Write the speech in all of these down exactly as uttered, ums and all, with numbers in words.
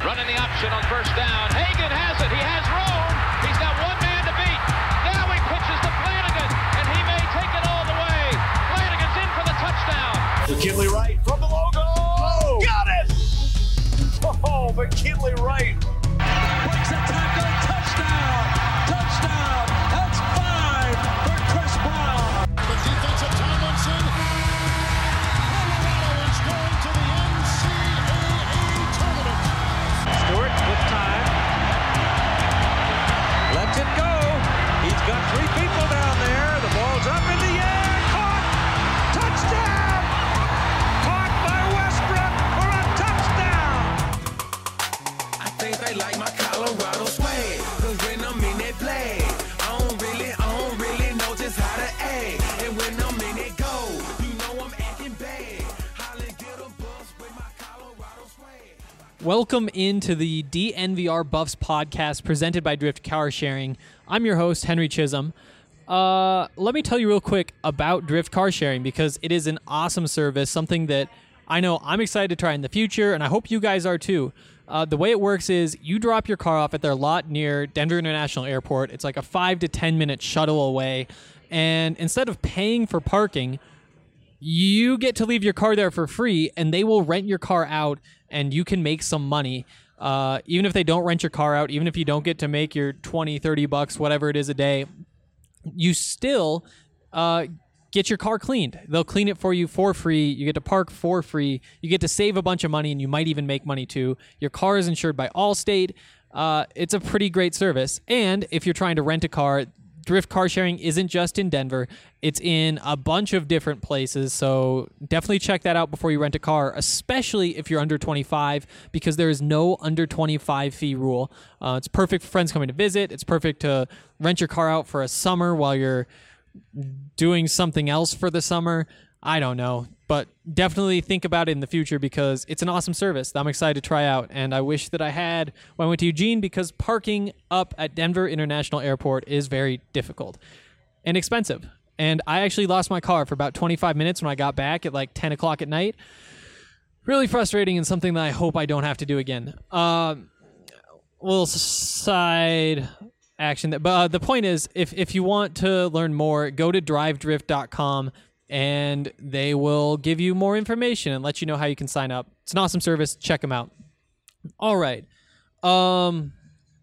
running the option on first down. Hagan has it. He has room. He's got one man to beat. Now he pitches to Flanagan, and he may take it all the way. Flanagan's in for the touchdown. McKinley Wright from the logo. Oh, got it! Oh, McKinley Wright. Breaks a tackle. Touchdown. Touchdown. That's five for Chris Brown. The defensive Tomlinson. Colorado is going to the N C double A tournament. Stewart with time. Lets it go. He's got three people down there. The ball's up in the air. Caught. Touchdown. Caught by Westbrook for a touchdown. I think they like my Colorado swag. Cause when I'm in that play, I don't really, I don't really know just how to act. And when I'm in it go, you know I'm acting bad. Holly get a bus with my Colorado swag. Welcome into the D N V R Buffs podcast presented by Drift Car Sharing. I'm your host, Henry Chisholm. Uh, let me tell you real quick about Drift Car Sharing because it is an awesome service, something that I know I'm excited to try in the future, and I hope you guys are too. Uh, the way it works is you drop your car off at their lot near Denver International Airport. It's like a five to ten minute shuttle away, and instead of paying for parking, you get to leave your car there for free, and they will rent your car out, and you can make some money. Uh, even if they don't rent your car out, even if you don't get to make your twenty, thirty bucks, whatever it is a day, you still uh, get your car cleaned. They'll clean it for you for free. You get to park for free. You get to save a bunch of money, and you might even make money too. Your car is insured by Allstate. Uh, it's a pretty great service. And if you're trying to rent a car, Drift Car Sharing isn't just in Denver. It's in a bunch of different places, so definitely check that out before you rent a car, especially if you're under twenty-five, because there is no under twenty-five fee rule. Uh, it's perfect for friends coming to visit. It's perfect to rent your car out for a summer while you're doing something else for the summer. I don't know, but definitely think about it in the future because it's an awesome service that I'm excited to try out, and I wish that I had when I went to Eugene because parking up at Denver International Airport is very difficult and expensive. And I actually lost my car for about twenty-five minutes when I got back at like ten o'clock at night. Really frustrating and something that I hope I don't have to do again. Um, little side action. That, but uh, the point is, if, if you want to learn more, go to drive drift dot com. And they will give you more information and let you know how you can sign up. It's an awesome service. Check them out. All right. Um,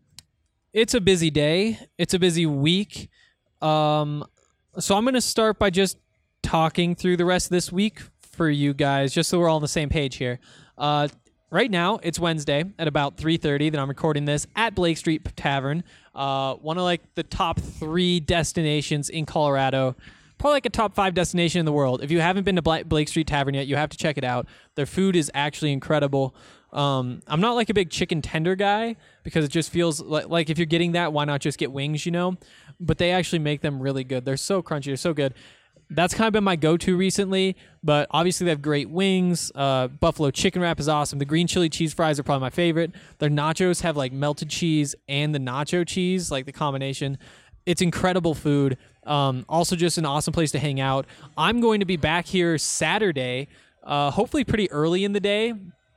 it's a busy day. It's a busy week. Um, so I'm going to start by just talking through the rest of this week for you guys, just so we're all on the same page here. Uh, right now, it's Wednesday at about three thirty that I'm recording this at Blake Street Tavern, uh, one of like the top three destinations in Colorado. Probably like a top five destination in the world. If you haven't been to Blake Street Tavern yet, you have to check it out. Their food is actually incredible. Um, I'm not like a big chicken tender guy because it just feels like, like if you're getting that, why not just get wings, you know? But they actually make them really good. They're so crunchy. They're so good. That's kind of been my go-to recently, but obviously they have great wings. Uh, buffalo chicken wrap is awesome. The green chili cheese fries are probably my favorite. Their nachos have like melted cheese and the nacho cheese, like the combination. It's incredible food. Um, also just an awesome place to hang out. I'm going to be back here Saturday, uh, hopefully pretty early in the day,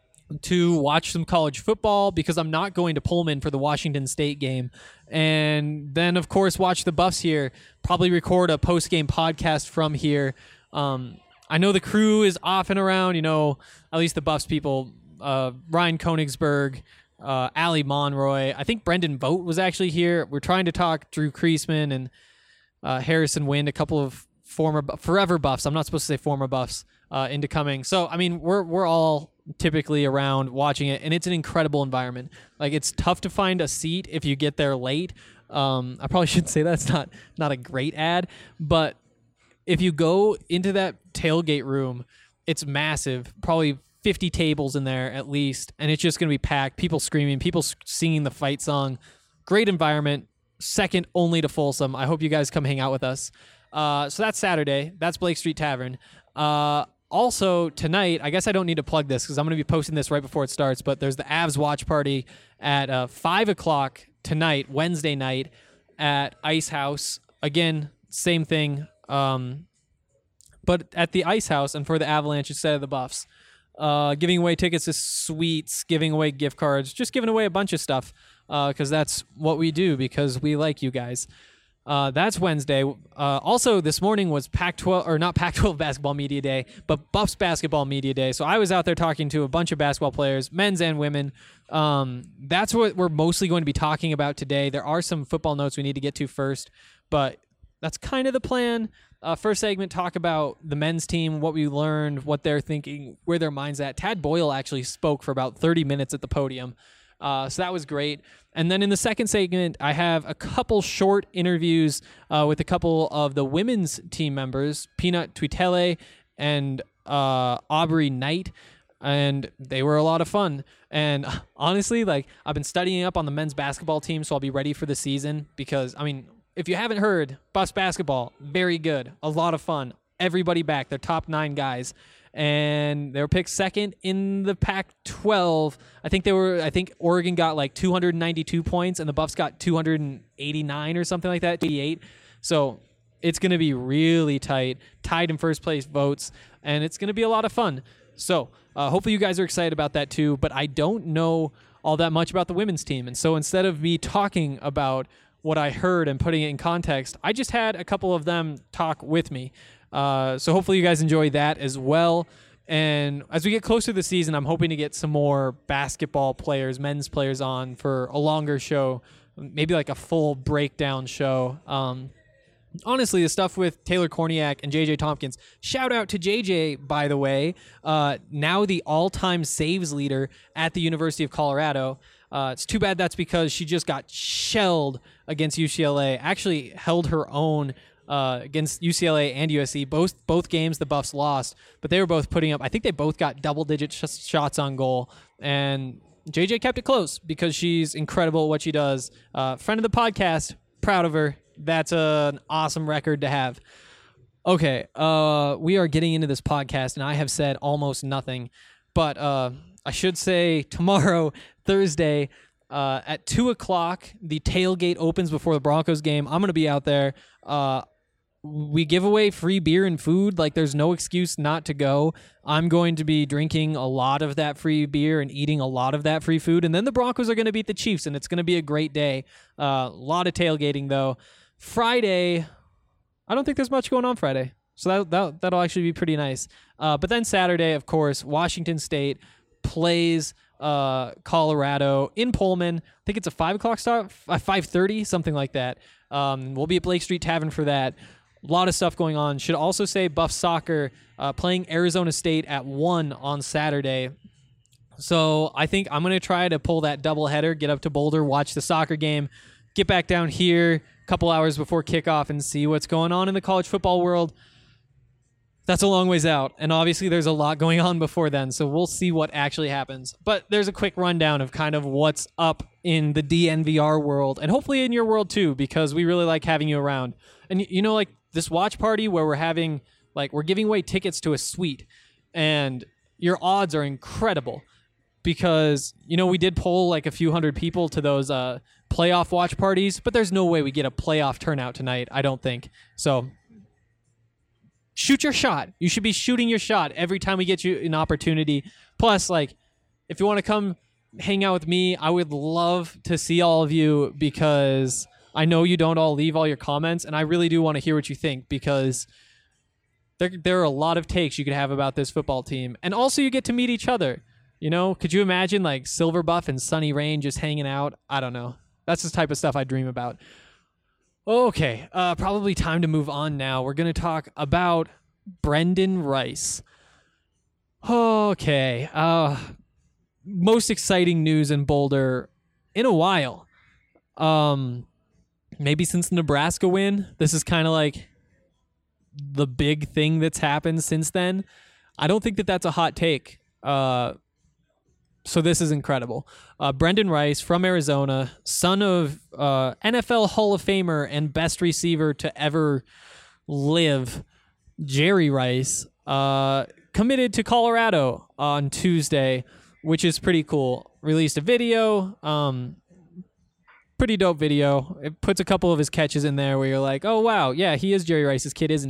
to watch some college football because I'm not going to Pullman for the Washington State game. And then, of course, watch the Buffs here, probably record a post-game podcast from here. Um, I know the crew is off and around, you know, at least the Buffs people, uh, Ryan Konigsberg, uh, Ali Monroy. I think Brendan Vogt was actually here. We're trying to talk Drew Kreisman and uh, Harrison Wind, a couple of former, forever Buffs. I'm not supposed to say former Buffs uh, into coming. So, I mean, we're we're all typically around watching it, and it's an incredible environment. Like, it's tough to find a seat if you get there late. Um, I probably shouldn't say that's not not a great ad, but if you go into that tailgate room, it's massive, probably fifty tables in there at least, and it's just going to be packed, people screaming, people singing the fight song. Great environment, second only to Folsom. I hope you guys come hang out with us. Uh, so that's Saturday. That's Blake Street Tavern. Uh, also, tonight, I guess I don't need to plug this because I'm going to be posting this right before it starts, but there's the Avs watch party at uh, five o'clock tonight, Wednesday night, at Ice House. Again, same thing, um, but at the Ice House and for the Avalanche instead of the Buffs. uh, giving away tickets to suites, giving away gift cards, just giving away a bunch of stuff because uh, that's what we do because we like you guys. Uh, that's Wednesday. Uh, also, this morning was Pac twelve, or not Pac twelve basketball media day, but Buffs basketball media day. So I was out there talking to a bunch of basketball players, men's and women. Um, that's what we're mostly going to be talking about today. There are some football notes we need to get to first, but that's kind of the plan. Uh, first segment, talk about the men's team, what we learned, what they're thinking, where their mind's at. Tad Boyle actually spoke for about thirty minutes at the podium. Uh, so that was great. And then in the second segment, I have a couple short interviews uh, with a couple of the women's team members, Peanut Tuitele and uh, Aubrey Knight, and they were a lot of fun. And honestly, like I've been studying up on the men's basketball team, so I'll be ready for the season because, I mean, if you haven't heard, Buffs basketball, very good, a lot of fun. Everybody back, they're top nine guys. And they were picked second in the Pac twelve. I think they were. I think Oregon got like two hundred ninety-two points, and the Buffs got two hundred eighty-nine or something like that, eighty-eight. So it's going to be really tight, tied in first place votes, and it's going to be a lot of fun. So uh, hopefully you guys are excited about that too. But I don't know all that much about the women's team, and so instead of me talking about what I heard and putting it in context, I just had a couple of them talk with me. Uh, so hopefully you guys enjoy that as well. And as we get closer to the season, I'm hoping to get some more basketball players, men's players on for a longer show, maybe like a full breakdown show. Um, honestly, the stuff with Taylor Korniak and J J Tompkins, shout out to J J, by the way, uh, now the all-time saves leader at the University of Colorado. Uh, it's too bad that's because she just got shelled against U C L A, actually held her own Uh, against U C L A and U S C. Both both games the Buffs lost, but they were both putting up, I think they both got double-digit sh- shots on goal, and J J kept it close because she's incredible at what she does. Uh, friend of the podcast, proud of her. That's a, an awesome record to have. Okay, uh, we are getting into this podcast, and I have said almost nothing, but uh, I should say tomorrow, Thursday, uh, at two o'clock, the tailgate opens before the Broncos game. I'm going to be out there. Uh, we give away free beer and food. Like, there's no excuse not to go. I'm going to be drinking a lot of that free beer and eating a lot of that free food. And then the Broncos are going to beat the Chiefs, and it's going to be a great day. Uh, a lot of tailgating, though. Friday, I don't think there's much going on Friday. So that, that, that'll actually be pretty nice. Uh, but then Saturday, of course, Washington State plays uh, Colorado in Pullman. I think it's a five o'clock start, five thirty, something like that. Um, we'll be at Blake Street Tavern for that. A lot of stuff going on. Should also say Buff Soccer uh, playing Arizona State at one on Saturday. So I think I'm going to try to pull that doubleheader, get up to Boulder, watch the soccer game, get back down here a couple hours before kickoff and see what's going on in the college football world. That's a long ways out, and obviously there's a lot going on before then, so we'll see what actually happens. But there's a quick rundown of kind of what's up in the D N V R world, and hopefully in your world too, because we really like having you around. And you know, like this watch party where we're having, like, we're giving away tickets to a suite, and your odds are incredible because, you know, we did poll like a few hundred people to those uh, playoff watch parties, but there's no way we get a playoff turnout tonight, I don't think. So shoot your shot. You should be shooting your shot every time we get you an opportunity. Plus, like, if you want to come hang out with me, I would love to see all of you because I know you don't all leave all your comments, and I really do want to hear what you think because there, there are a lot of takes you could have about this football team. And also you get to meet each other. You know, could you imagine like Silver Buff and Sunny Rain just hanging out? I don't know. That's the type of stuff I dream about. Okay, uh, probably time to move on now. We're going to talk about Brendan Rice. Okay, uh, most exciting news in Boulder in a while. Um, maybe since the Nebraska win. This is kind of like the big thing that's happened since then. I don't think that that's a hot take. Uh, so this is incredible. Uh, Brendan Rice from Arizona, son of uh, N F L Hall of Famer and best receiver to ever live, Jerry Rice, uh, committed to Colorado on Tuesday, which is pretty cool. Released a video, um, pretty dope video. It puts a couple of his catches in there where you're like, oh, wow, yeah, he is Jerry Rice's kid, isn't he?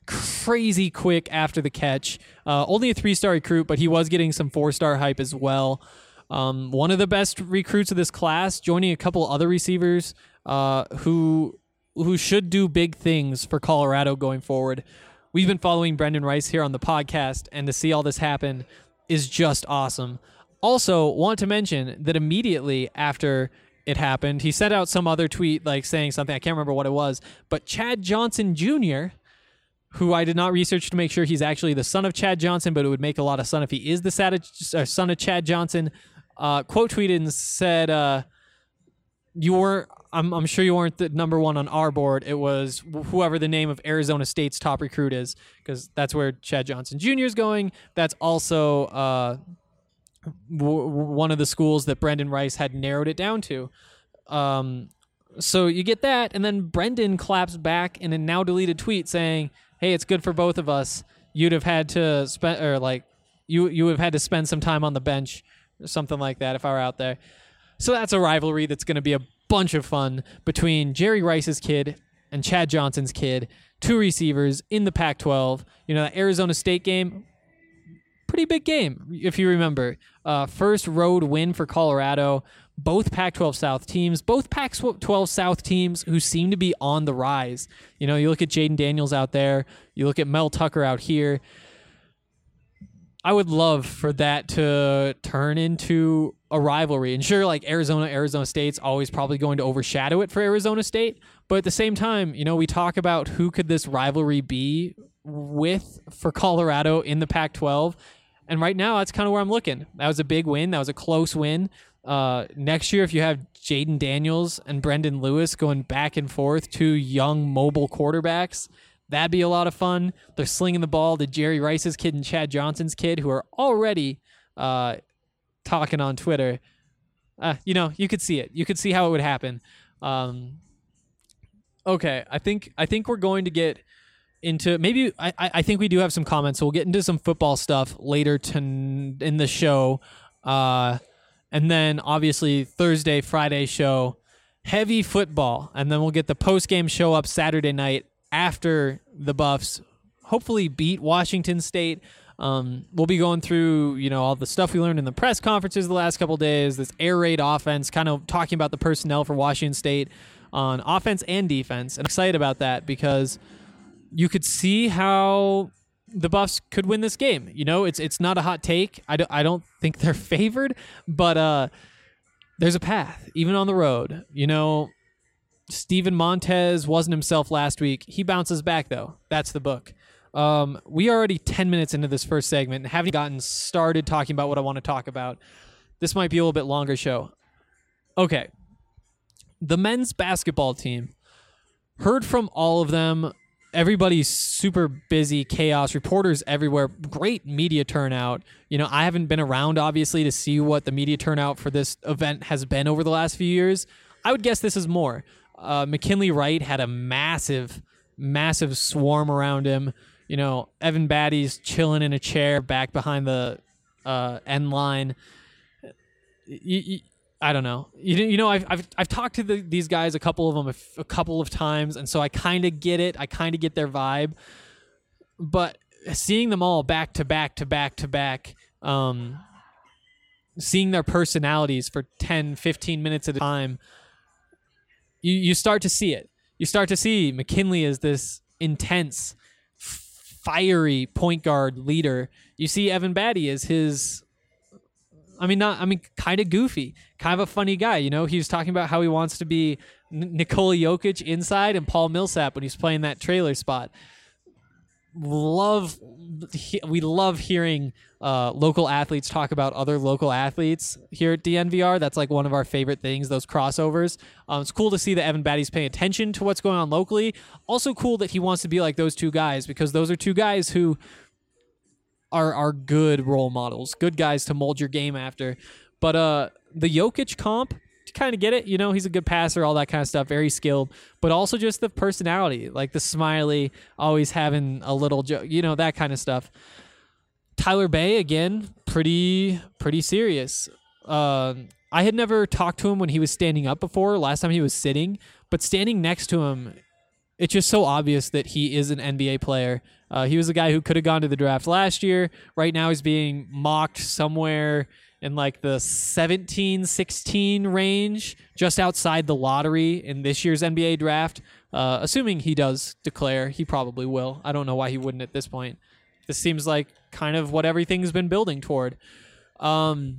crazy quick after the catch. Uh, only a three-star recruit, but he was getting some four-star hype as well. Um, one of the best recruits of this class, joining a couple other receivers uh, who who should do big things for Colorado going forward. We've been following Brendan Rice here on the podcast, and to see all this happen is just awesome. Also, want to mention that immediately after it happened, he sent out some other tweet like saying something, I can't remember what it was, but Chad Johnson Junior, who I did not research to make sure he's actually the son of Chad Johnson, but it would make a lot of sense if he is the son of Chad Johnson, uh, quote tweeted and said, uh, you were, I'm, I'm sure you weren't the number one on our board. It was whoever the name of Arizona State's top recruit is, because that's where Chad Johnson Junior is going. That's also uh, w- one of the schools that Brendan Rice had narrowed it down to. Um, so you get that, and then Brendan claps back in a now deleted tweet saying, hey, it's good for both of us. You'd have had to spend, or like, you you would have had to spend some time on the bench, or something like that if I were out there. So that's a rivalry that's going to be a bunch of fun between Jerry Rice's kid and Chad Johnson's kid, two receivers in the Pac twelve. You know, that Arizona State game, pretty big game, if you remember. Uh, first road win for Colorado. Both Pac twelve South teams, both Pac twelve South teams who seem to be on the rise. You know, you look at Jaden Daniels out there, you look at Mel Tucker out here. I would love for that to turn into a rivalry. And sure, like Arizona, Arizona State's always probably going to overshadow it for Arizona State. But at the same time, you know, we talk about who could this rivalry be with for Colorado in the Pac twelve. And right now, that's kind of where I'm looking. That was a big win. That was a close win. Uh, next year, if you have Jaden Daniels and Brendan Lewis going back and forth, two young mobile quarterbacks, that'd be a lot of fun. They're slinging the ball to Jerry Rice's kid and Chad Johnson's kid, who are already uh, talking on Twitter. Uh, you know, you could see it. You could see how it would happen. Um, okay, I think I think we're going to get into maybe I, I think we do have some comments, so we'll get into some football stuff later to, in the show. Uh, and then obviously Thursday, Friday show, heavy football, and then we'll get the post-game show up Saturday night after the Buffs hopefully beat Washington State. Um, we'll be going through, you know, all the stuff we learned in the press conferences the last couple of days, this air raid offense, kind of talking about the personnel for Washington State on offense and defense. I'm excited about that because you could see how the Buffs could win this game. You know, it's it's not a hot take. I don't, I don't think they're favored, but uh, there's a path, even on the road. You know, Steven Montez wasn't himself last week. He bounces back, though. That's the book. Um, we are already ten minutes into this first segment and haven't gotten started talking about what I want to talk about. This might be a little bit longer show. Okay. The men's basketball team. Heard from all of them. Everybody's super busy, chaos, reporters everywhere, great media turnout. You know, I haven't been around, obviously, to see what the media turnout for this event has been over the last few years. I would guess this is more. Uh, McKinley Wright had a massive, massive swarm around him. You know, Evan Batty's chilling in a chair back behind the uh, end line. You, you, I don't know. You, you know, I've I've I've talked to the, these guys, a couple of them, a, f- a couple of times, and so I kind of get it. I kind of get their vibe. But seeing them all back to back to back to back, um, seeing their personalities for ten, fifteen minutes at a time, you you start to see it. You start to see McKinley as this intense, fiery point guard leader. You see Evan Batty as his, I mean, not, I mean, kind of goofy, kind of a funny guy. You know, he was talking about how he wants to be N- Nikola Jokic inside and Paul Millsap when he's playing that trailer spot. Love, he, we love hearing uh, local athletes talk about other local athletes here at D N V R. That's like one of our favorite things, those crossovers. Um, it's cool to see that Evan Batty's paying attention to what's going on locally. Also cool that he wants to be like those two guys, because those are two guys who are are good role models, good guys to mold your game after. But uh, the Jokic comp, you kind of get it. You know, he's a good passer, all that kind of stuff, very skilled, but also just the personality, like the smiley, always having a little joke, you know, that kind of stuff. Tyler Bay, again, pretty pretty serious. Uh, I had never talked to him when he was standing up before. Last time he was sitting, but standing next to him, it's just so obvious that he is an N B A player. Uh, he was a guy who could have gone to the draft last year. Right now he's being mocked somewhere in like the seventeen, sixteen range, just outside the lottery in this year's N B A draft. Uh, assuming he does declare, he probably will. I don't know why he wouldn't at this point. This seems like kind of what everything's been building toward. Um,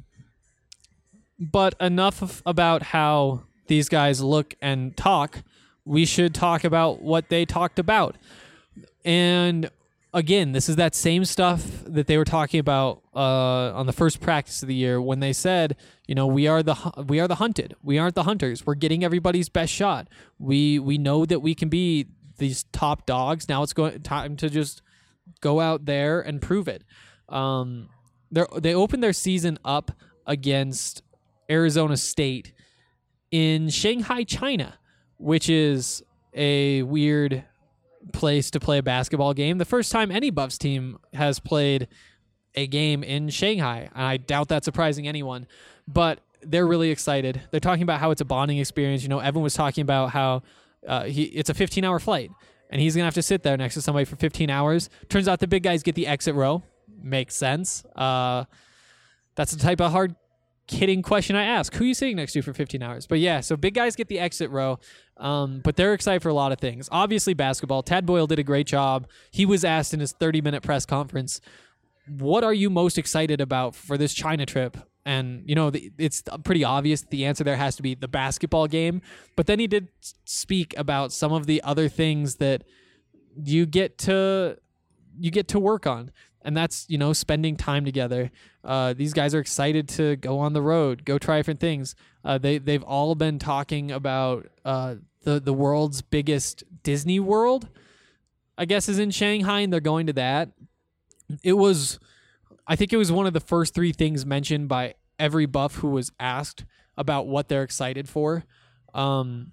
but enough of, about how these guys look and talk. We should talk about what they talked about. And again, this is that same stuff that they were talking about uh, on the first practice of the year when they said, you know, we are the we are the hunted. We aren't the hunters. We're getting everybody's best shot. We we know that we can be these top dogs. Now it's going time to just go out there and prove it. Um, they they opened their season up against Arizona State in Shanghai, China, which is a weird place to play a basketball game. The first time any Buffs team has played a game in Shanghai. And I doubt that's surprising anyone, but they're really excited. They're talking about how it's a bonding experience. You know, Evan was talking about how uh, he it's a fifteen hour flight and he's going to have to sit there next to somebody for fifteen hours. Turns out the big guys get the exit row. Makes sense. Uh, that's the type of hard kidding question I ask. Who are you sitting next to for fifteen hours? But yeah, so big guys get the exit row, um, but they're excited for a lot of things. Obviously basketball. Tad Boyle did a great job. He was asked in his thirty minute press conference, what are you most excited about for this China trip? And, you know, the, it's pretty obvious the answer there has to be the basketball game. But then he did speak about some of the other things that you get to you get to work on. And that's, you know, spending time together. Uh, these guys are excited to go on the road, go try different things. Uh, they, they've all been talking about uh, the, the world's biggest Disney World, I guess, is in Shanghai, and they're going to that. It was, I think it was one of the first three things mentioned by every Buff who was asked about what they're excited for. Um,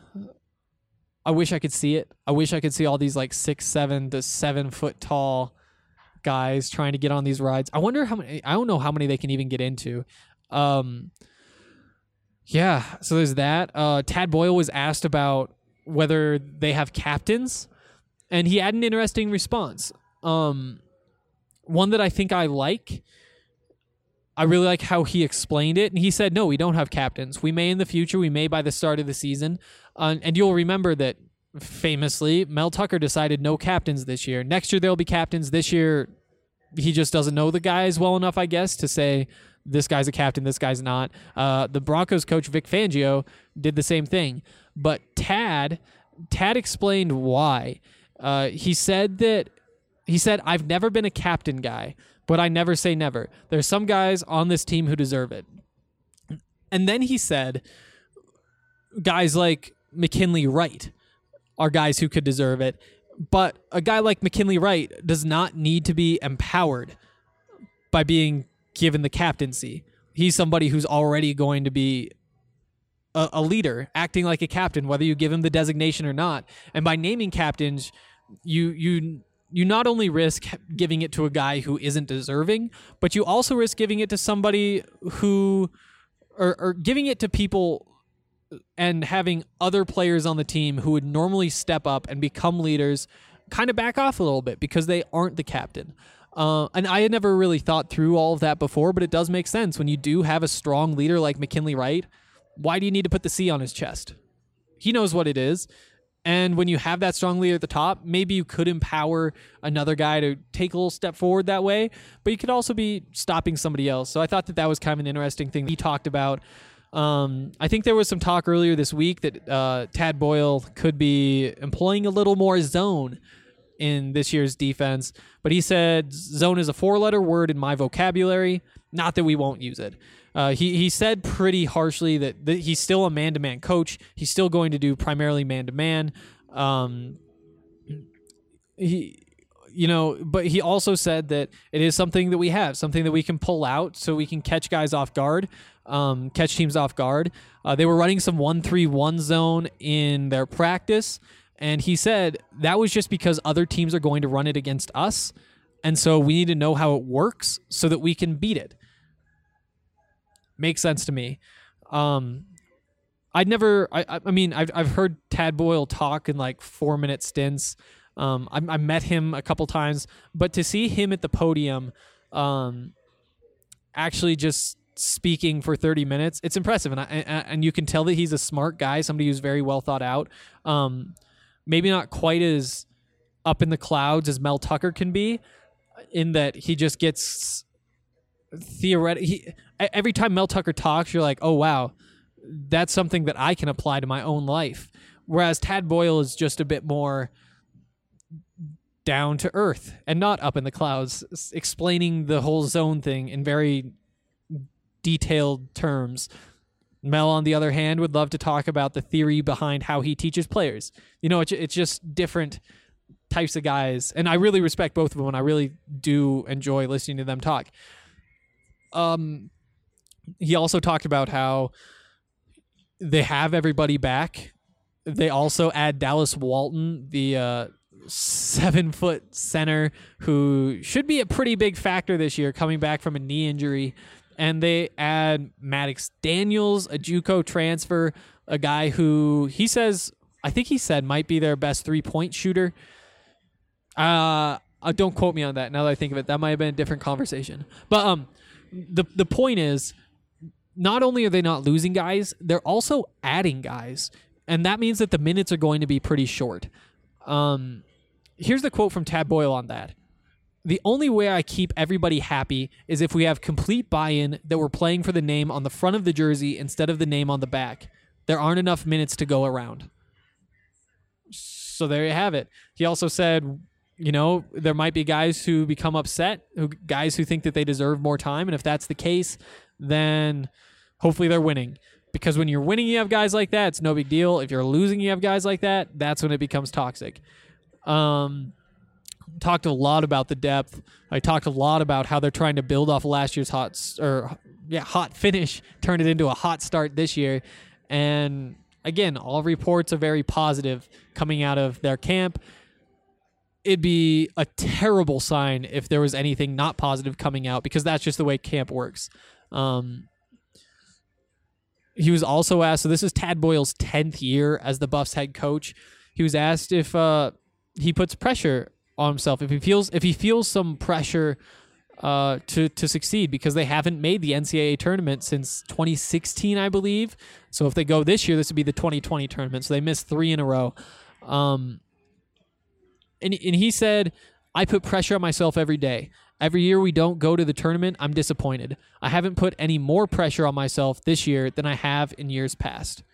I wish I could see it. I wish I could see all these like six, seven to seven foot tall guys trying to get on these rides. I wonder how many, I don't know how many they can even get into. Um, yeah, so there's that. Uh, Tad Boyle was asked about whether they have captains, and he had an interesting response. Um, one that I think I like. I really like how he explained it. And he said, no, we don't have captains. We may in the future. We may by the start of the season. Uh, and you'll remember that famously, Mel Tucker decided no captains this year. Next year, there'll be captains. This year, he just doesn't know the guys well enough, I guess, to say this guy's a captain, this guy's not. Uh, the Broncos coach, Vic Fangio, did the same thing. But Tad, Tad explained why. Uh, he said that, he said, I've never been a captain guy, but I never say never. There's some guys on this team who deserve it. And then he said, guys like McKinley Wright are guys who could deserve it. But a guy like McKinley Wright does not need to be empowered by being given the captaincy. He's somebody who's already going to be a, a leader, acting like a captain, whether you give him the designation or not. And by naming captains, you you you not only risk giving it to a guy who isn't deserving, but you also risk giving it to somebody who, or, or giving it to people and having other players on the team who would normally step up and become leaders kind of back off a little bit because they aren't the captain. Uh, and I had never really thought through all of that before, but it does make sense. When you do have a strong leader like McKinley Wright, why do you need to put the C on his chest? He knows what it is. And when you have that strong leader at the top, maybe you could empower another guy to take a little step forward that way, but you could also be stopping somebody else. So I thought that that was kind of an interesting thing he talked about. Um, I think there was some talk earlier this week that uh, Tad Boyle could be employing a little more zone in this year's defense, but he said zone is a four-letter word in my vocabulary, not that we won't use it. Uh, he, he said pretty harshly that, that he's still a man-to-man coach. He's still going to do primarily man-to-man. Um, he, you know, but he also said that it is something that we have, something that we can pull out so we can catch guys off guard, um, catch teams off guard. Uh, they were running some one three one zone in their practice, and he said that was just because other teams are going to run it against us, and so we need to know how it works so that we can beat it. Makes sense to me. Um, I'd never. I, I mean, I've I've heard Tad Boyle talk in like four minute stints. Um, I, I met him a couple times, but to see him at the podium, um, actually just speaking for thirty minutes, it's impressive, and I, and you can tell that he's a smart guy, somebody who's very well thought out. Um, maybe not quite as up in the clouds as Mel Tucker can be, in that he just gets theoretic. He, every time Mel Tucker talks, you're like, oh wow, that's something that I can apply to my own life. Whereas Tad Boyle is just a bit more down to earth and not up in the clouds, explaining the whole zone thing in very detailed terms. Mel, on the other hand, would love to talk about the theory behind how he teaches players. You know, it's, it's just different types of guys. And I really respect both of them, and I really do enjoy listening to them talk. Um, he also talked about how they have everybody back. They also add Dallas Walton, the uh, seven-foot center, who should be a pretty big factor this year, coming back from a knee injury. And they add Maddox Daniels, a JUCO transfer, a guy who he says, I think he said, might be their best three-point shooter. Uh, uh, don't quote me on that. Now that I think of it, that might have been a different conversation. But um, the the point is, not only are they not losing guys, they're also adding guys. And that means that the minutes are going to be pretty short. Um, here's the quote from Tad Boyle on that. The only way I keep everybody happy is if we have complete buy-in that we're playing for the name on the front of the jersey instead of the name on the back. There aren't enough minutes to go around. So there you have it. He also said, you know, there might be guys who become upset, who guys who think that they deserve more time. And if that's the case, then hopefully they're winning. Because when you're winning, you have guys like that, it's no big deal. If you're losing, you have guys like that, that's when it becomes toxic. Um, talked a lot about the depth. I talked a lot about how they're trying to build off last year's hot or yeah hot finish, turn it into a hot start this year. And again, all reports are very positive coming out of their camp. It'd be a terrible sign if there was anything not positive coming out, because that's just the way camp works. Um, he was also asked, so this is Tad Boyle's tenth year as the Buffs head coach. He was asked if uh, he puts pressure on himself, if he feels if he feels some pressure uh, to to succeed, because they haven't made the N C double A tournament since twenty sixteen, I believe. So if they go this year, this would be the twenty twenty tournament. So they missed three in a row. Um, and and he said, I put pressure on myself every day. Every year we don't go to the tournament, I'm disappointed. I haven't put any more pressure on myself this year than I have in years past.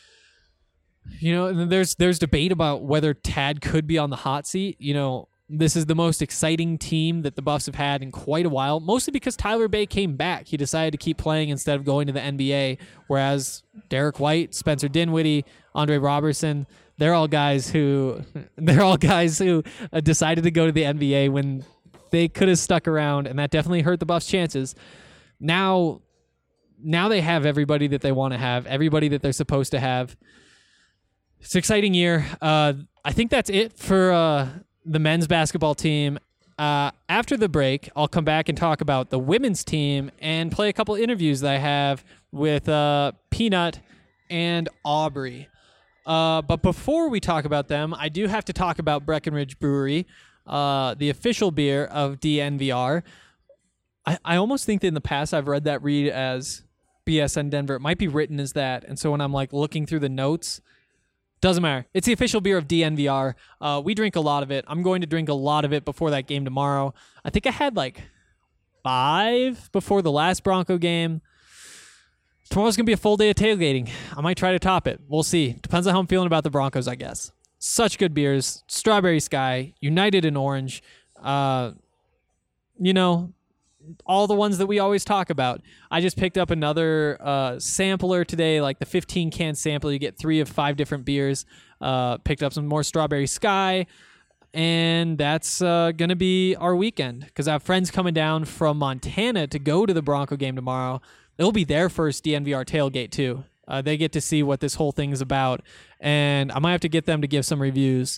You know, and there's there's debate about whether Tad could be on the hot seat. You know, this is the most exciting team that the Buffs have had in quite a while, mostly because Tyler Bay came back. He decided to keep playing instead of going to the N B A, whereas Derek White, Spencer Dinwiddie, Andre Robertson, they're all guys who they're all guys who uh, decided to go to the N B A when they could have stuck around, and that definitely hurt the Buffs' chances. Now, now they have everybody that they want to have, everybody that they're supposed to have. It's an exciting year. Uh, I think that's it for uh, the men's basketball team. Uh, after the break, I'll come back and talk about the women's team and play a couple interviews that I have with uh, Peanut and Aubrey. Uh, but before we talk about them, I do have to talk about Breckenridge Brewery, uh, the official beer of D N V R. I, I almost think that in the past I've read that read as B S N Denver. It might be written as that. And so when I'm like looking through the notes, doesn't matter. It's the official beer of D N V R. Uh, we drink a lot of it. I'm going to drink a lot of it before that game tomorrow. I think I had like five before the last Bronco game. Tomorrow's going to be a full day of tailgating. I might try to top it. We'll see. Depends on how I'm feeling about the Broncos, I guess. Such good beers. Strawberry Sky, United in Orange. Uh, you know, all the ones that we always talk about. I just picked up another uh, sampler today, like the fifteen can sample. You get three of five different beers. Uh, picked up some more Strawberry Sky, and that's uh, going to be our weekend because I have friends coming down from Montana to go to the Bronco game tomorrow. It'll be their first D N V R tailgate, too. Uh, they get to see what this whole thing is about, and I might have to get them to give some reviews.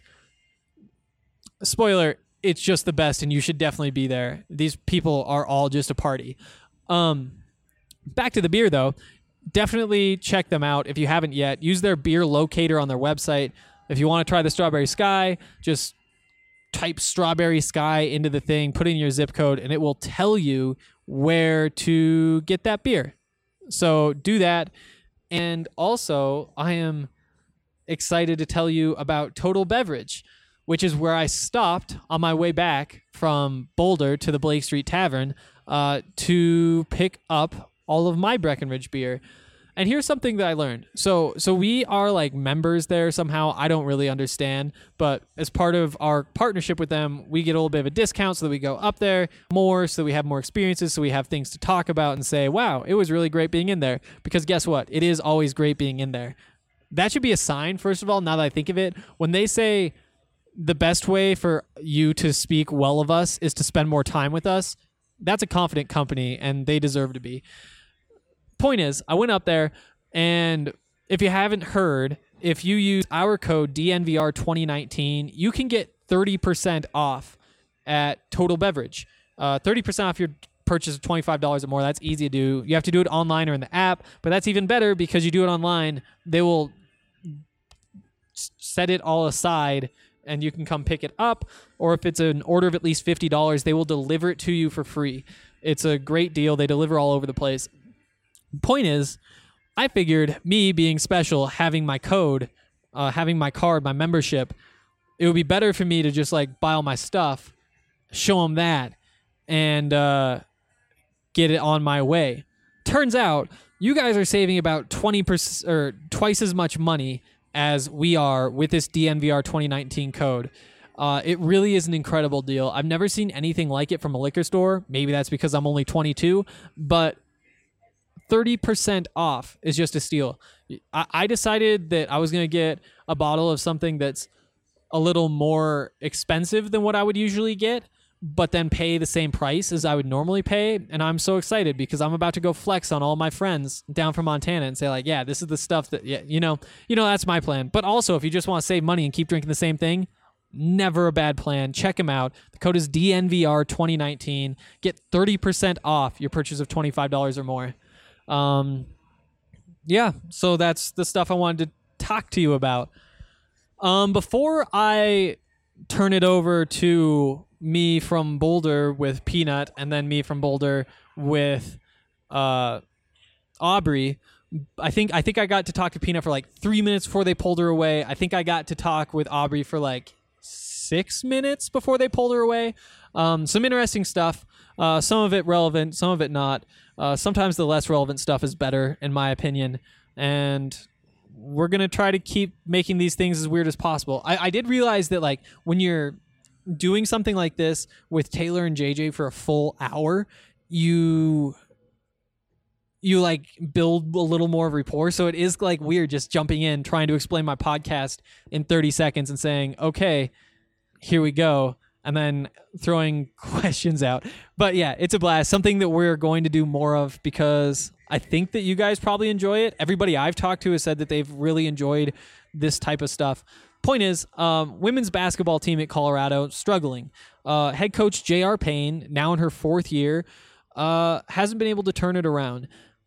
Spoiler, it's just the best, and you should definitely be there. These people are all just a party. Um, back to the beer, though. definitely check them out if you haven't yet. Use their beer locator on their website. If you want to try the Strawberry Sky, just type Strawberry Sky into the thing, put in your zip code, and it will tell you where to get that beer. So do that. And also, I am excited to tell you about Total Beverage, which is where I stopped on my way back from Boulder to the Blake Street Tavern uh, to pick up all of my Breckenridge beer. And here's something that I learned. So so we are like members there somehow. I don't really understand. But as part of our partnership with them, we get a little bit of a discount so that we go up there more, so that we have more experiences, so we have things to talk about and say, wow, it was really great being in there. Because guess what? It is always great being in there. That should be a sign, first of all, now that I think of it. When they say the best way for you to speak well of us is to spend more time with us, that's a confident company, and they deserve to be. Point is, I went up there, and if you haven't heard, if you use our code D N V R twenty nineteen, you can get thirty percent off at Total Beverage. Uh, thirty percent off your purchase of twenty-five dollars or more. That's easy to do. You have to do it online or in the app, but that's even better because you do it online. They will set it all aside, and you can come pick it up, or if it's an order of at least fifty dollars, they will deliver it to you for free. It's a great deal. They deliver all over the place. Point is, I figured me being special, having my code, uh, having my card, my membership, it would be better for me to just like buy all my stuff, show them that, and uh, get it on my way. Turns out, you guys are saving about twenty percent or twice as much money as we are with this D N V R twenty nineteen code. Uh, it really is an incredible deal. I've never seen anything like it from a liquor store. Maybe that's because I'm only twenty-two, but thirty percent off is just a steal. I, I decided that I was going to get a bottle of something that's a little more expensive than what I would usually get, but then pay the same price as I would normally pay. And I'm so excited because I'm about to go flex on all my friends down from Montana and say like, yeah, this is the stuff that, yeah, you know, you know, that's my plan. But also, if you just want to save money and keep drinking the same thing, never a bad plan. Check them out. The code is D N V R twenty nineteen. Get thirty percent off your purchase of twenty-five dollars or more. Um, yeah, so that's the stuff I wanted to talk to you about. Um, before I turn it over to me from Boulder with Peanut and then me from Boulder with uh, Aubrey, I think I think I got to talk to Peanut for like three minutes before they pulled her away. I think I got to talk with Aubrey for like six minutes before they pulled her away. Um, some interesting stuff. Uh, some of it relevant, some of it not. Uh, sometimes the less relevant stuff is better, in my opinion. And we're going to try to keep making these things as weird as possible. I, I did realize that, like, when you're doing something like this with Taylor and J J for a full hour, you you like build a little more rapport. So it is like weird just jumping in, trying to explain my podcast in thirty seconds and saying, okay, here we go, and then throwing questions out. But yeah, it's a blast. Something that we're going to do more of because I think that you guys probably enjoy it. Everybody I've talked to has said that they've really enjoyed this type of stuff. Point is, um, women's basketball team at Colorado struggling. Uh, head coach J R Payne, now in her fourth year, uh, hasn't been able to turn it around.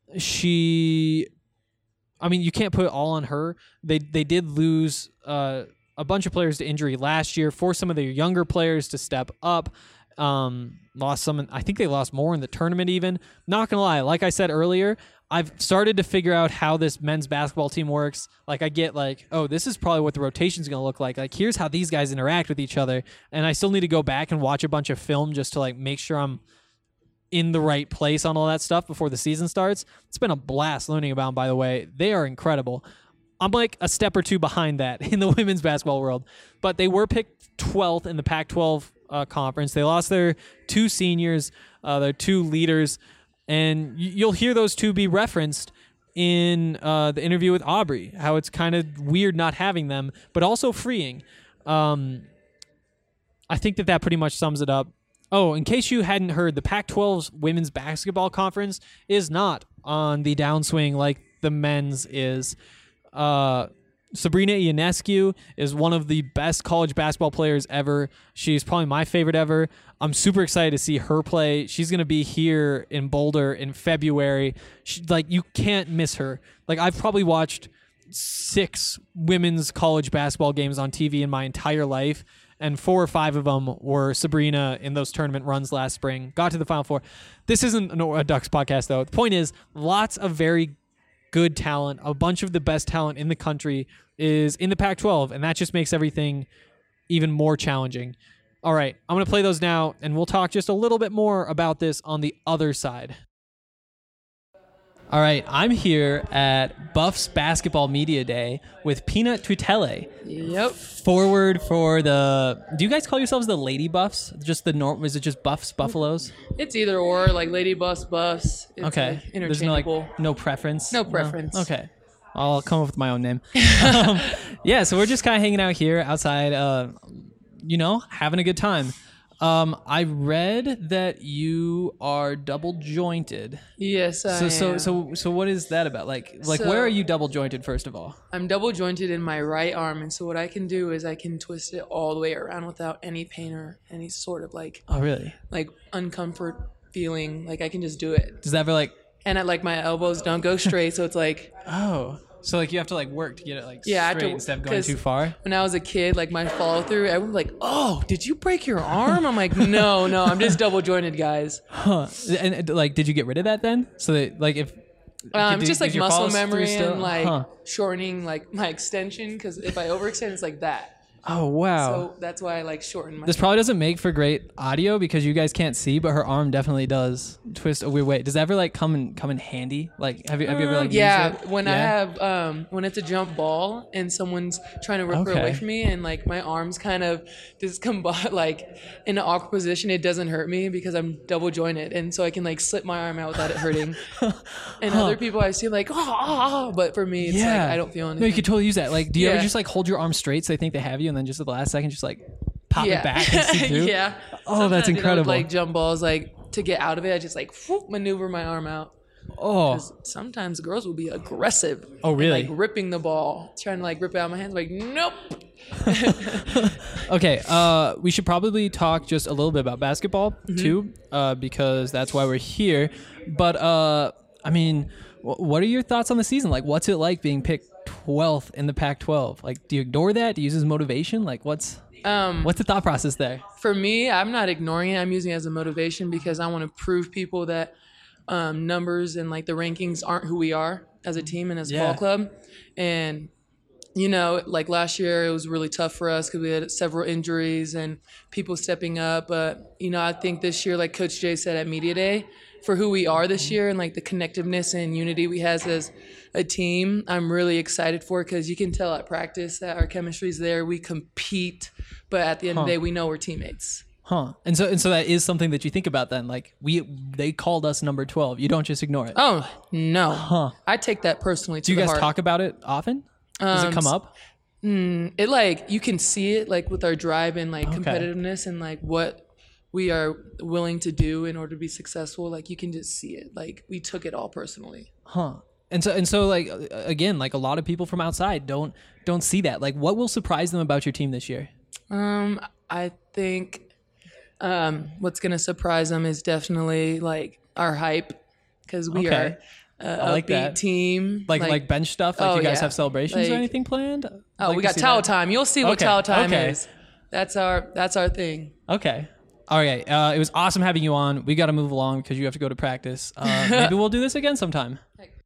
She, I mean, you can't put it all on her. They they did lose uh, a bunch of players to injury last year, forced some of their younger players to step up. Um, lost some, I think they lost more in the tournament even. Not gonna lie, like I said earlier, I've started to figure out how this men's basketball team works. Like I get like, oh, this is probably what the rotation's gonna look like. Like here's how these guys interact with each other. And I still need to go back and watch a bunch of film just to like make sure I'm in the right place on all that stuff before the season starts. It's been a blast learning about them, by the way. They are incredible. I'm like a step or two behind that in the women's basketball world. But they were picked twelfth in the Pac twelve uh, conference. They lost their two seniors, uh, their two leaders, and y- you'll hear those two be referenced in uh, the interview with Aubrey, how it's kind of weird not having them, but also freeing. Um, I think that that pretty much sums it up. Oh, in case you hadn't heard, the Pac twelve's women's basketball conference is not on the downswing like the men's is. Uh, Sabrina Ionescu is one of the best college basketball players ever. She's probably my favorite ever. I'm super excited to see her play. She's going to be here in Boulder in February. She, like, you can't miss her. Like, I've probably watched six women's college basketball games on T V in my entire life, and four or five of them were Sabrina in those tournament runs last spring. Got to the Final Four. This isn't a Ducks podcast, though. The point is, lots of very good talent, a bunch of the best talent in the country is in the Pac twelve, and that just makes everything even more challenging. All right, I'm going to play those now, and we'll talk just a little bit more about this on the other side. All right, I'm here at Buffs Basketball Media Day with Peanut Tutele. Yep. Forward for the... Do you guys call yourselves the Lady Buffs? Just the norm? Is it just Buffs, Buffaloes? It's either or, like Lady Buffs, Buffs. It's Okay. like There's no, like, interchangeable. no preference? No preference. No? Okay. I'll come up with my own name. um, yeah, so we're just kind of hanging out here outside, uh, you know, having a good time. Um, I read that you are double jointed. Yes, I So so am. so so what is that about? Like like So- where are you double jointed first of all? I'm double jointed in my right arm, and so what I can do is I can twist it all the way around without any pain or any sort of like Oh really? like uncomfort feeling. Like I can just do it, Does that ever like and I like my elbows don't go straight, so it's like oh so like you have to like work to get it like Yeah, I have straight to- instead of going 'cause- too far? when I was a kid, like my follow through, everyone was like, "Oh, did you break your arm?" I'm like, "No, no, I'm just double jointed, guys." Huh. And, and like did you get rid of that then? So that like if Um, did- just did like your muscle follow-through memory still- and like Huh. shortening like my extension, because if I overextend, it's like that. Oh wow. So that's why I like shorten my. This probably doesn't make for great audio because you guys can't see, but her arm definitely does twist a weird way. Does that ever like come in come in handy? Like have you have you ever like yeah, used it? when I Yeah? have um when it's a jump ball and someone's trying to rip her Okay. away from me, and like my arms kind of just combine like in an awkward position, it doesn't hurt me because I'm double jointed, and so I can like slip my arm out without it hurting. And other people I see like oh, oh, oh, but for me it's like I don't feel anything. No, you could totally use that. Like, do you ever Yeah. just like hold your arm straight so they think they have you, and then just at the last second, just like pop yeah. it back and see through? yeah. Oh, that's Sometimes, you know, incredible. like jump balls, like to get out of it, I just like whoop, maneuver my arm out. Oh, 'Cause sometimes girls will be aggressive. Oh, and, really? like ripping the ball, trying to like rip it out of my hands. Like nope. okay. Uh, we should probably talk just a little bit about basketball Mm-hmm. too, uh, because that's why we're here. But uh, I mean, wh- what are your thoughts on the season? Like, what's it like being picked twelfth in the Pac twelve? Like, do you ignore that? Do you use it as motivation? Like, what's Um, what's the thought process there? For me, I'm not ignoring it. I'm using it as a motivation because I want to prove people that um, numbers and like the rankings aren't who we are as a team and as a Yeah. ball club. And you know, like last year, it was really tough for us because we had several injuries and people stepping up. But, you know, I think this year, like Coach Jay said at Media Day, for who we are this year and like the connectiveness and unity we have as a team, I'm really excited for because you can tell at practice that our chemistry is there. We compete, but at the end of the day, we know we're teammates. Huh. And so and so that is something that you think about then. Like we they called us number twelve. You don't just ignore it. Oh, no. Huh. I take that personally to Do you the guys heart. talk about it often? Does it Um, come up? It like you can see it like with our drive and like competitiveness and like what we are willing to do in order to be successful. Like you can just see it. Like we took it all personally. Huh. And so and so like uh, again, like a lot of people from outside don't don't see that. Like what will surprise them about your team this year? Um, I think um, what's gonna surprise them is definitely like our hype because we Okay. are a like upbeat that. team. Like like, bench stuff? Like oh, you guys yeah. have celebrations or Like- anything planned? Oh, Like we to got see towel that. time. You'll see what Okay, towel time okay. is. That's our that's our thing. Okay. All right. Uh, it was awesome having you on. We got to move along because you have to go to practice. Uh, maybe we'll do this again sometime.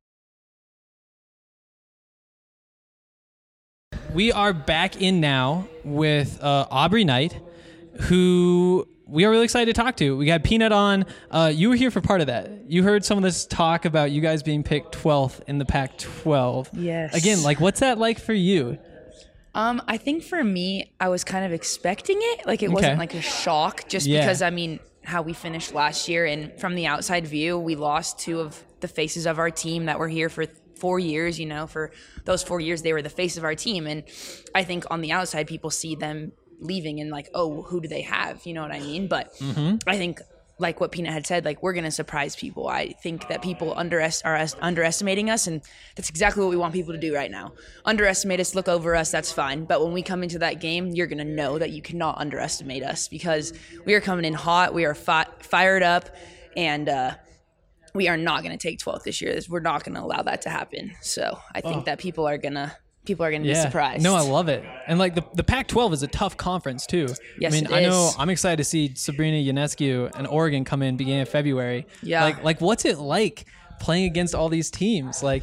We are back in now with uh, Aubrey Knight, who we are really excited to talk to. We got Peanut on. Uh, you were here for part of that. You heard some of this talk about you guys being picked twelfth in the Pac twelve. Yes. Again, like, what's that like for you? Um, I think for me, I was kind of expecting it. Like it Okay. wasn't like a shock, just Yeah. because I mean how we finished last year, and from the outside view, we lost two of the faces of our team that were here for four years. You know, for those four years, they were the face of our team, and I think on the outside, people see them leaving and like, oh, who do they have? You know what I mean? But I think like what Peanut had said, like we're going to surprise people. I think that people underest- are est- underestimating us, and that's exactly what we want people to do right now. Underestimate us, look over us, that's fine. But when we come into that game, you're going to know that you cannot underestimate us because we are coming in hot, we are fi- fired up, and uh, we are not going to take twelfth this year. We're not going to allow that to happen. So I think Oh. that people are going to people are going to Yeah. be surprised. No, I love it. And like the, the Pac twelve is a tough conference too. Yes, I mean, it I know is. I'm excited to see Sabrina Ionescu and Oregon come in beginning of February. Yeah. Like, like what's it like playing against all these teams? Like,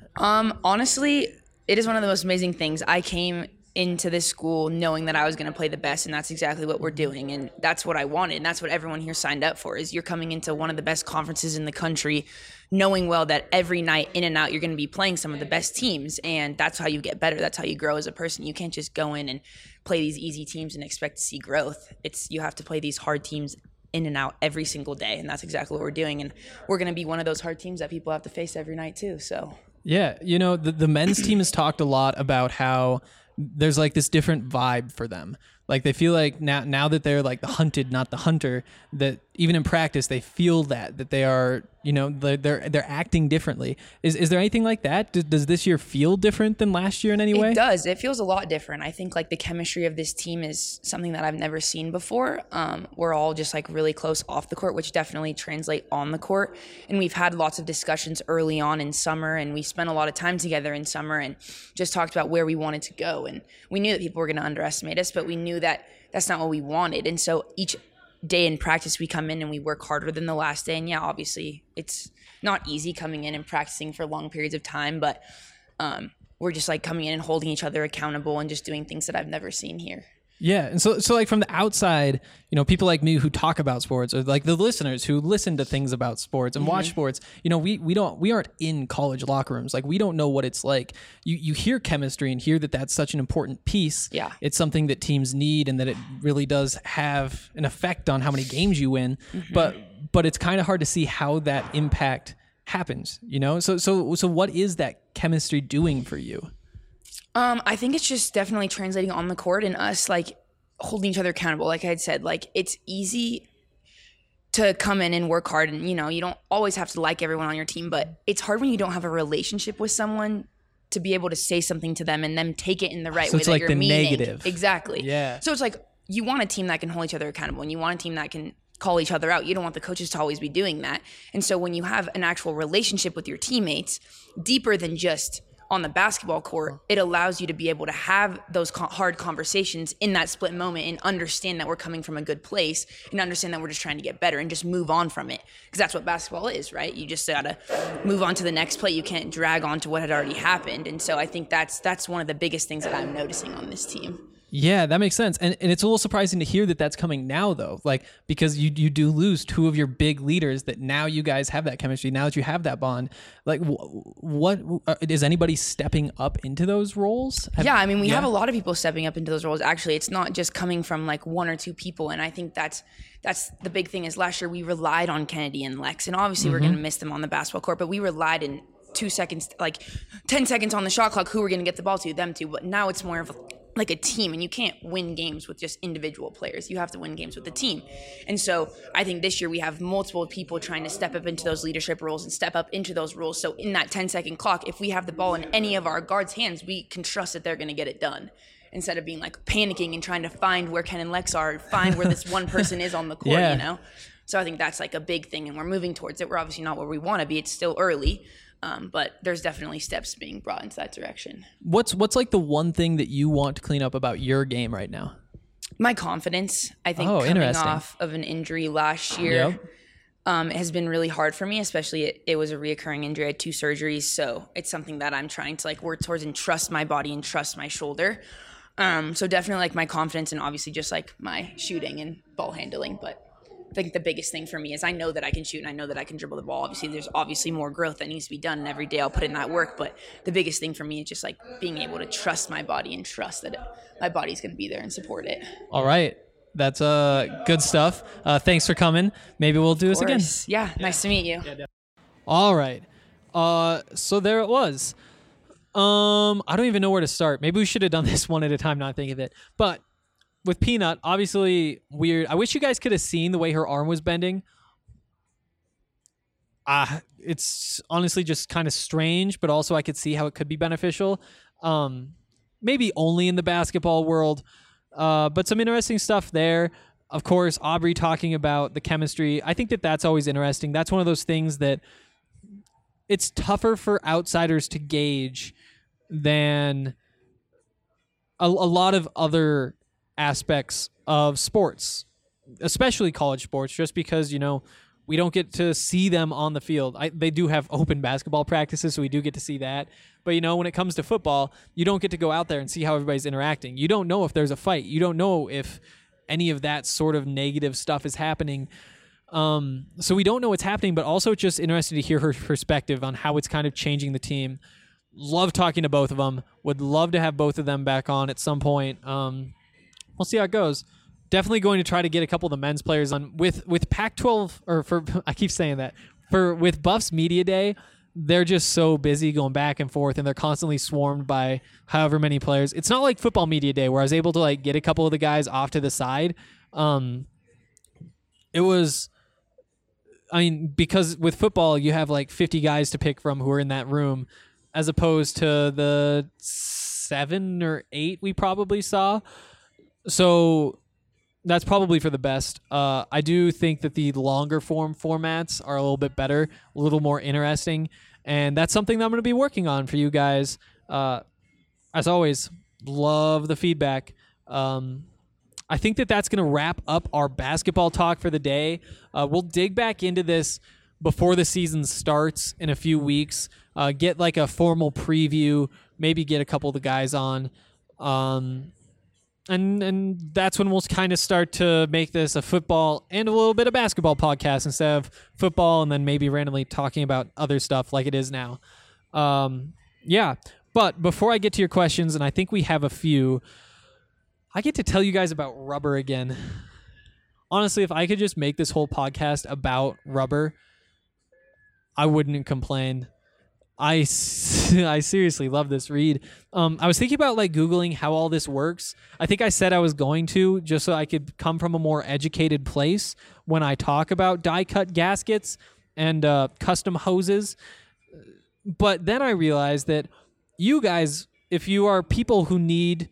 Um, honestly, it is one of the most amazing things. I came into this school knowing that I was going to play the best, and that's exactly what we're doing, and that's what I wanted, and that's what everyone here signed up for. Is you're coming into one of the best conferences in the country, knowing well that every night in and out you're going to be playing some of the best teams, and that's how you get better. That's how you grow as a person. You can't just go in and play these easy teams and expect to see growth. It's you have to play these hard teams in and out every single day, and that's exactly what we're doing. And we're going to be one of those hard teams that people have to face every night too. So. yeah, you know, the, the men's team has talked a lot about how there's like this different vibe for them. Like they feel like now now that they're like the hunted, not the hunter, that even in practice they feel that that they are, you know, they're they're, they're acting differently. Is is there anything like that? Does, does this year feel different than last year in any way? It does. It feels a lot different. I think like the chemistry of this team is something that I've never seen before. Um, we're all just like really close off the court, which definitely translate on the court. And we've had lots of discussions early on in summer, and we spent a lot of time together in summer and just talked about where we wanted to go. And we knew that people were going to underestimate us, but we knew that that's not what we wanted. And so each day in practice, we come in and we work harder than the last day. And yeah, obviously it's not easy coming in and practicing for long periods of time, but um, we're just like coming in and holding each other accountable and just doing things that I've never seen here. Yeah, and so so like from the outside, you know, people like me who talk about sports, or like the listeners who listen to things about sports and watch sports, you know, we we don't we aren't in college locker rooms. Like we don't know what it's like. You you hear chemistry and hear that that's such an important piece. Yeah. It's something that teams need, and that it really does have an effect on how many games you win. But but it's kind of hard to see how that impact happens. You know, so so so what is that chemistry doing for you? Um, I think it's just definitely translating on the court and us like holding each other accountable. Like I had said, like it's easy to come in and work hard, and you know, you don't always have to like everyone on your team, but it's hard when you don't have a relationship with someone to be able to say something to them and them take it in the right So way it's that like you're the meaning. negative. Exactly. Yeah. So it's like you want a team that can hold each other accountable, and you want a team that can call each other out. You don't want the coaches to always be doing that. And so when you have an actual relationship with your teammates, deeper than just on the basketball court, it allows you to be able to have those co- hard conversations in that split moment and understand that we're coming from a good place and understand that we're just trying to get better and just move on from it. Because that's what basketball is, right? You just gotta move on to the next play. You can't drag on to what had already happened. And so I think that's that's one of the biggest things that I'm noticing on this team. Yeah, that makes sense. And and it's a little surprising to hear that that's coming now, though. Like, because you you do lose two of your big leaders, that now you guys have that chemistry, now that you have that bond. Like, wh- what, uh, is anybody stepping up into those roles? Have- Yeah, I mean, we yeah. have a lot of people stepping up into those roles. Actually, it's not just coming from like one or two people, and I think that's that's the big thing. Is last year we relied on Kennedy and Lex, and obviously we're going to miss them on the basketball court, but we relied in two seconds, like ten seconds on the shot clock, who we're going to get the ball to, them two. But now it's more of like a team, and you can't win games with just individual players. You have to win games with the team. And so I think this year we have multiple people trying to step up into those leadership roles and step up into those roles. So in that ten second clock, if we have the ball in any of our guards' hands, we can trust that they're going to get it done, instead of being like panicking and trying to find where Ken and Lex are, find where this one person is on the court, Yeah. you know? So I think that's like a big thing, and we're moving towards it. We're obviously not where we want to be. It's still early. Um, but there's definitely steps being brought into that direction. What's what's like the one thing that you want to clean up about your game right now? My confidence, I think, Oh, coming interesting. off of an injury last year Yep. um, has been really hard for me, especially it, it was a reoccurring injury. I had two surgeries, so it's something that I'm trying to like work towards and trust my body and trust my shoulder. Um, so definitely like my confidence, and obviously just like my shooting and ball handling. But I think the biggest thing for me is I know that I can shoot and I know that I can dribble the ball. Obviously, there's obviously more growth that needs to be done, and every day I'll put in that work. But the biggest thing for me is just like being able to trust my body and trust that it, my body's going to be there and support it. All right. That's uh good stuff. Uh, thanks for coming. Maybe we'll do this again. Course. Yeah, nice to meet you. All right. Uh, so there it was. Um, I don't even know where to start. Maybe we should have done this one at a time, not think of it. But with Peanut, obviously weird. I wish you guys could have seen the way her arm was bending uh, it's honestly just kind of strange, but also I could see how it could be beneficial. Um, maybe only in the basketball world, uh, but some interesting stuff there. Of course, Aubrey talking about the chemistry. I think that that's always interesting. That's one of those things that it's tougher for outsiders to gauge than a, a lot of other aspects of sports, especially college sports, just because, you know, we don't get to see them on the field. I, they do have open basketball practices, so we do get to see that. But, you know, when it comes to football, you don't get to go out there and see how everybody's interacting. You don't know if there's a fight. You don't know if any of that sort of negative stuff is happening. Um, so we don't know what's happening, but also it's just interesting to hear her perspective on how it's kind of changing the team. Love talking to both of them. Would love to have both of them back on at some point. Um, we'll see how it goes. Definitely going to try to get a couple of the men's players on with with Pac twelve, or for I keep saying that for with Buffs Media Day. They're just so busy going back and forth, and they're constantly swarmed by however many players. It's not like Football Media Day where I was able to like get a couple of the guys off to the side. Um, it was, I mean, because with football you have like fifty guys to pick from who are in that room, as opposed to the seven or eight we probably saw. So that's probably for the best. Uh, I do think that the longer form formats are a little bit better, a little more interesting, and that's something that I'm going to be working on for you guys. Uh, as always, love the feedback. Um, I think that that's going to wrap up our basketball talk for the day. Uh, we'll dig back into this before the season starts in a few weeks, uh, get like a formal preview, maybe get a couple of the guys on. Um, And and that's when we'll kind of start to make this a football and a little bit of basketball podcast instead of football and then maybe randomly talking about other stuff like it is now. Um, yeah, but before I get to your questions, and I think we have a few, I get to tell you guys about rubber again. Honestly, if I could just make this whole podcast about rubber, I wouldn't complain. I, I seriously love this read. Um, I was thinking about like Googling how all this works. I think I said I was going to, just so I could come from a more educated place when I talk about die cut gaskets and uh, custom hoses. But then I realized that you guys, if you are people who need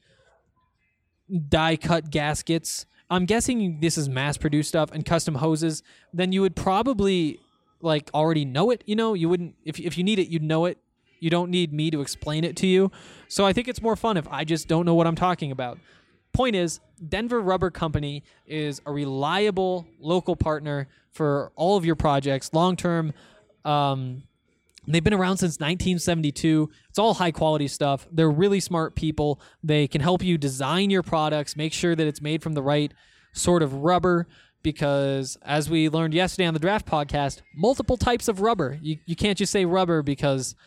die cut gaskets, I'm guessing this is mass produced stuff and custom hoses, then you would probably like already know it. You know, you wouldn't, if if you need it, you'd know it. You don't need me to explain it to you. So I think it's more fun if I just don't know what I'm talking about. Point is, Denver Rubber Company is a reliable local partner for all of your projects, long-term. Um, they've been around since nineteen seventy-two. It's all high-quality stuff. They're really smart people. They can help you design your products, make sure that it's made from the right sort of rubber, because as we learned yesterday on the Draft Podcast, multiple types of rubber. You you can't just say rubber because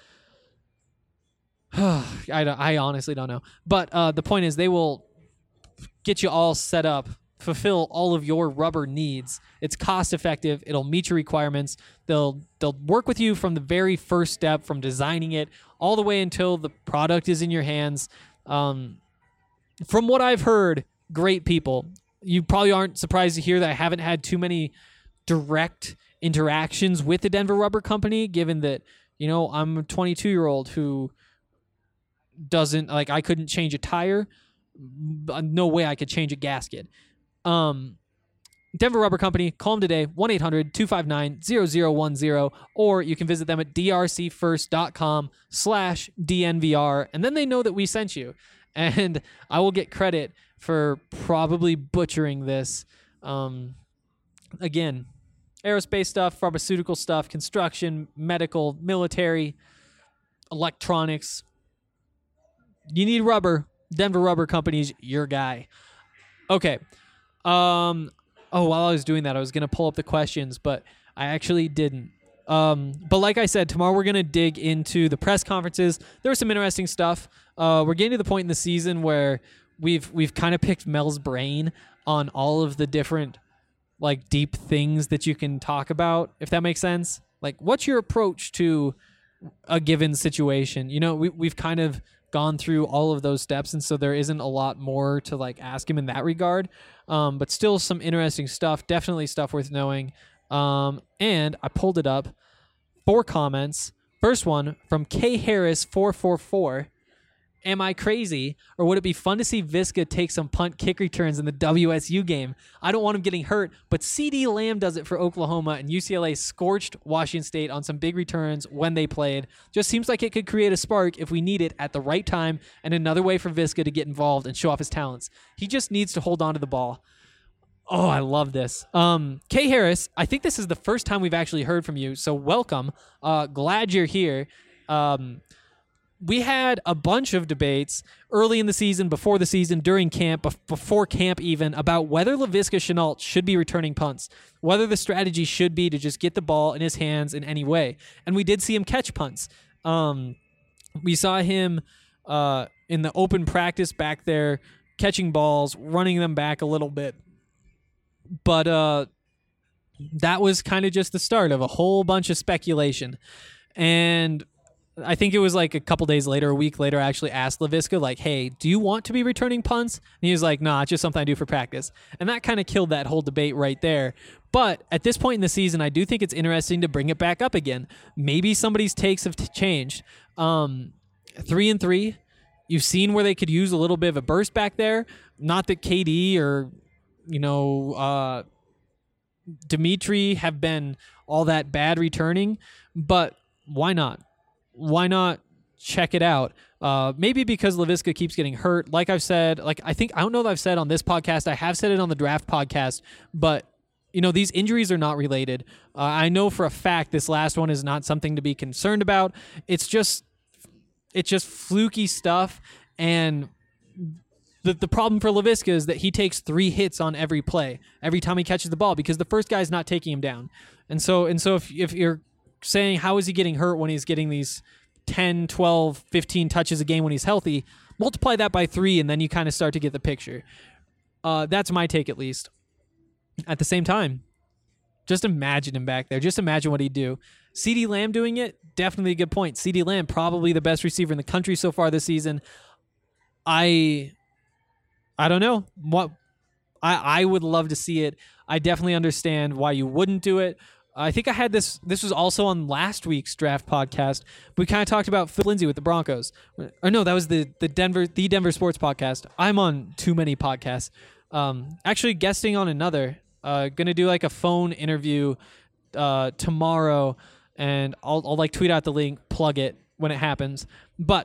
I, don't, I honestly don't know. But uh, the point is they will get you all set up, fulfill all of your rubber needs. It's cost effective. It'll meet your requirements. They'll they'll work with you from the very first step, from designing it all the way until the product is in your hands. Um, from what I've heard, great people. You probably aren't surprised to hear that I haven't had too many direct interactions with the Denver Rubber Company, given that, you know, I'm a twenty-two-year-old who doesn't, like, I couldn't change a tire. No way I could change a gasket. Um, Denver Rubber Company, call them today, one eight hundred two five nine zero zero one zero, or you can visit them at drcfirst.com slash DNVR, and then they know that we sent you. And I will get credit for probably butchering this. Um, again, aerospace stuff, pharmaceutical stuff, construction, medical, military, electronics. You need rubber. Denver Rubber Company's your guy. Okay. Um, oh, while I was doing that, I was going to pull up the questions, but I actually didn't. Um, but like I said, tomorrow we're going to dig into the press conferences. There was some interesting stuff. Uh, we're getting to the point in the season where we've we've kind of picked Mel's brain on all of the different like deep things that you can talk about, if that makes sense. Like, what's your approach to a given situation? You know, we we've kind of gone through all of those steps, and so there isn't a lot more to like ask him in that regard. Um, but still some interesting stuff, definitely stuff worth knowing. Um, and I pulled it up. four comments. First one from K Harris four four four. Am I crazy, or would it be fun to see Viska take some punt kick returns in the W S U game? I don't want him getting hurt, but CeeDee Lamb does it for Oklahoma, and U C L A scorched Washington State on some big returns when they played. Just seems like it could create a spark if we need it at the right time, and another way for Viska to get involved and show off his talents. He just needs to hold on to the ball. Oh, I love this. Um, Kay Harris, I think this is the first time we've actually heard from you, so welcome. Uh, glad you're here. Um, we had a bunch of debates early in the season, before the season, during camp, bef- before camp even, about whether Laviska Shenault should be returning punts, whether the strategy should be to just get the ball in his hands in any way. And we did see him catch punts. Um, we saw him uh, in the open practice back there catching balls, running them back a little bit. But uh, that was kind of just the start of a whole bunch of speculation. And I think it was like a couple days later, a week later, I actually asked Laviska, like, hey, do you want to be returning punts? And he was like, nah, it's just something I do for practice. And that kind of killed that whole debate right there. But at this point in the season, I do think it's interesting to bring it back up again. Maybe somebody's takes have t- changed. Um, three and three, you've seen where they could use a little bit of a burst back there. Not that K D or, you know, uh, Dimitri have been all that bad returning, but why not? Why not check it out? Uh, maybe because Laviska keeps getting hurt. Like I've said, like I think, I don't know that I've said on this podcast, I have said it on the draft podcast, but you know, these injuries are not related. Uh, I know for a fact this last one is not something to be concerned about. It's just, it's just fluky stuff. And the, the problem for Laviska is that he takes three hits on every play, every time he catches the ball, because the first guy's not taking him down. And so, and so if, if you're saying, how is he getting hurt when he's getting these ten, twelve, fifteen touches a game when he's healthy, multiply that by three, and then you kind of start to get the picture. Uh, that's my take, at least. At the same time, just imagine him back there. Just imagine what he'd do. CeeDee Lamb doing it, definitely a good point. CeeDee Lamb, probably the best receiver in the country so far this season. I I don't know. What I, I would love to see it. I definitely understand why you wouldn't do it. I think I had this, this was also on last week's draft podcast. We kind of talked about Phil Lindsay with the Broncos. Or no, that was the, the Denver, the Denver Sports podcast. I'm on too many podcasts. Um, actually guesting on another, uh, going to do like a phone interview, uh, tomorrow, and I'll, I'll like tweet out the link, plug it when it happens. But,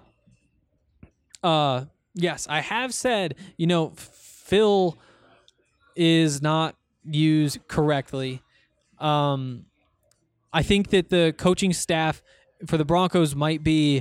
uh, yes, I have said, you know, Phil is not used correctly. Um, I think that the coaching staff for the Broncos might be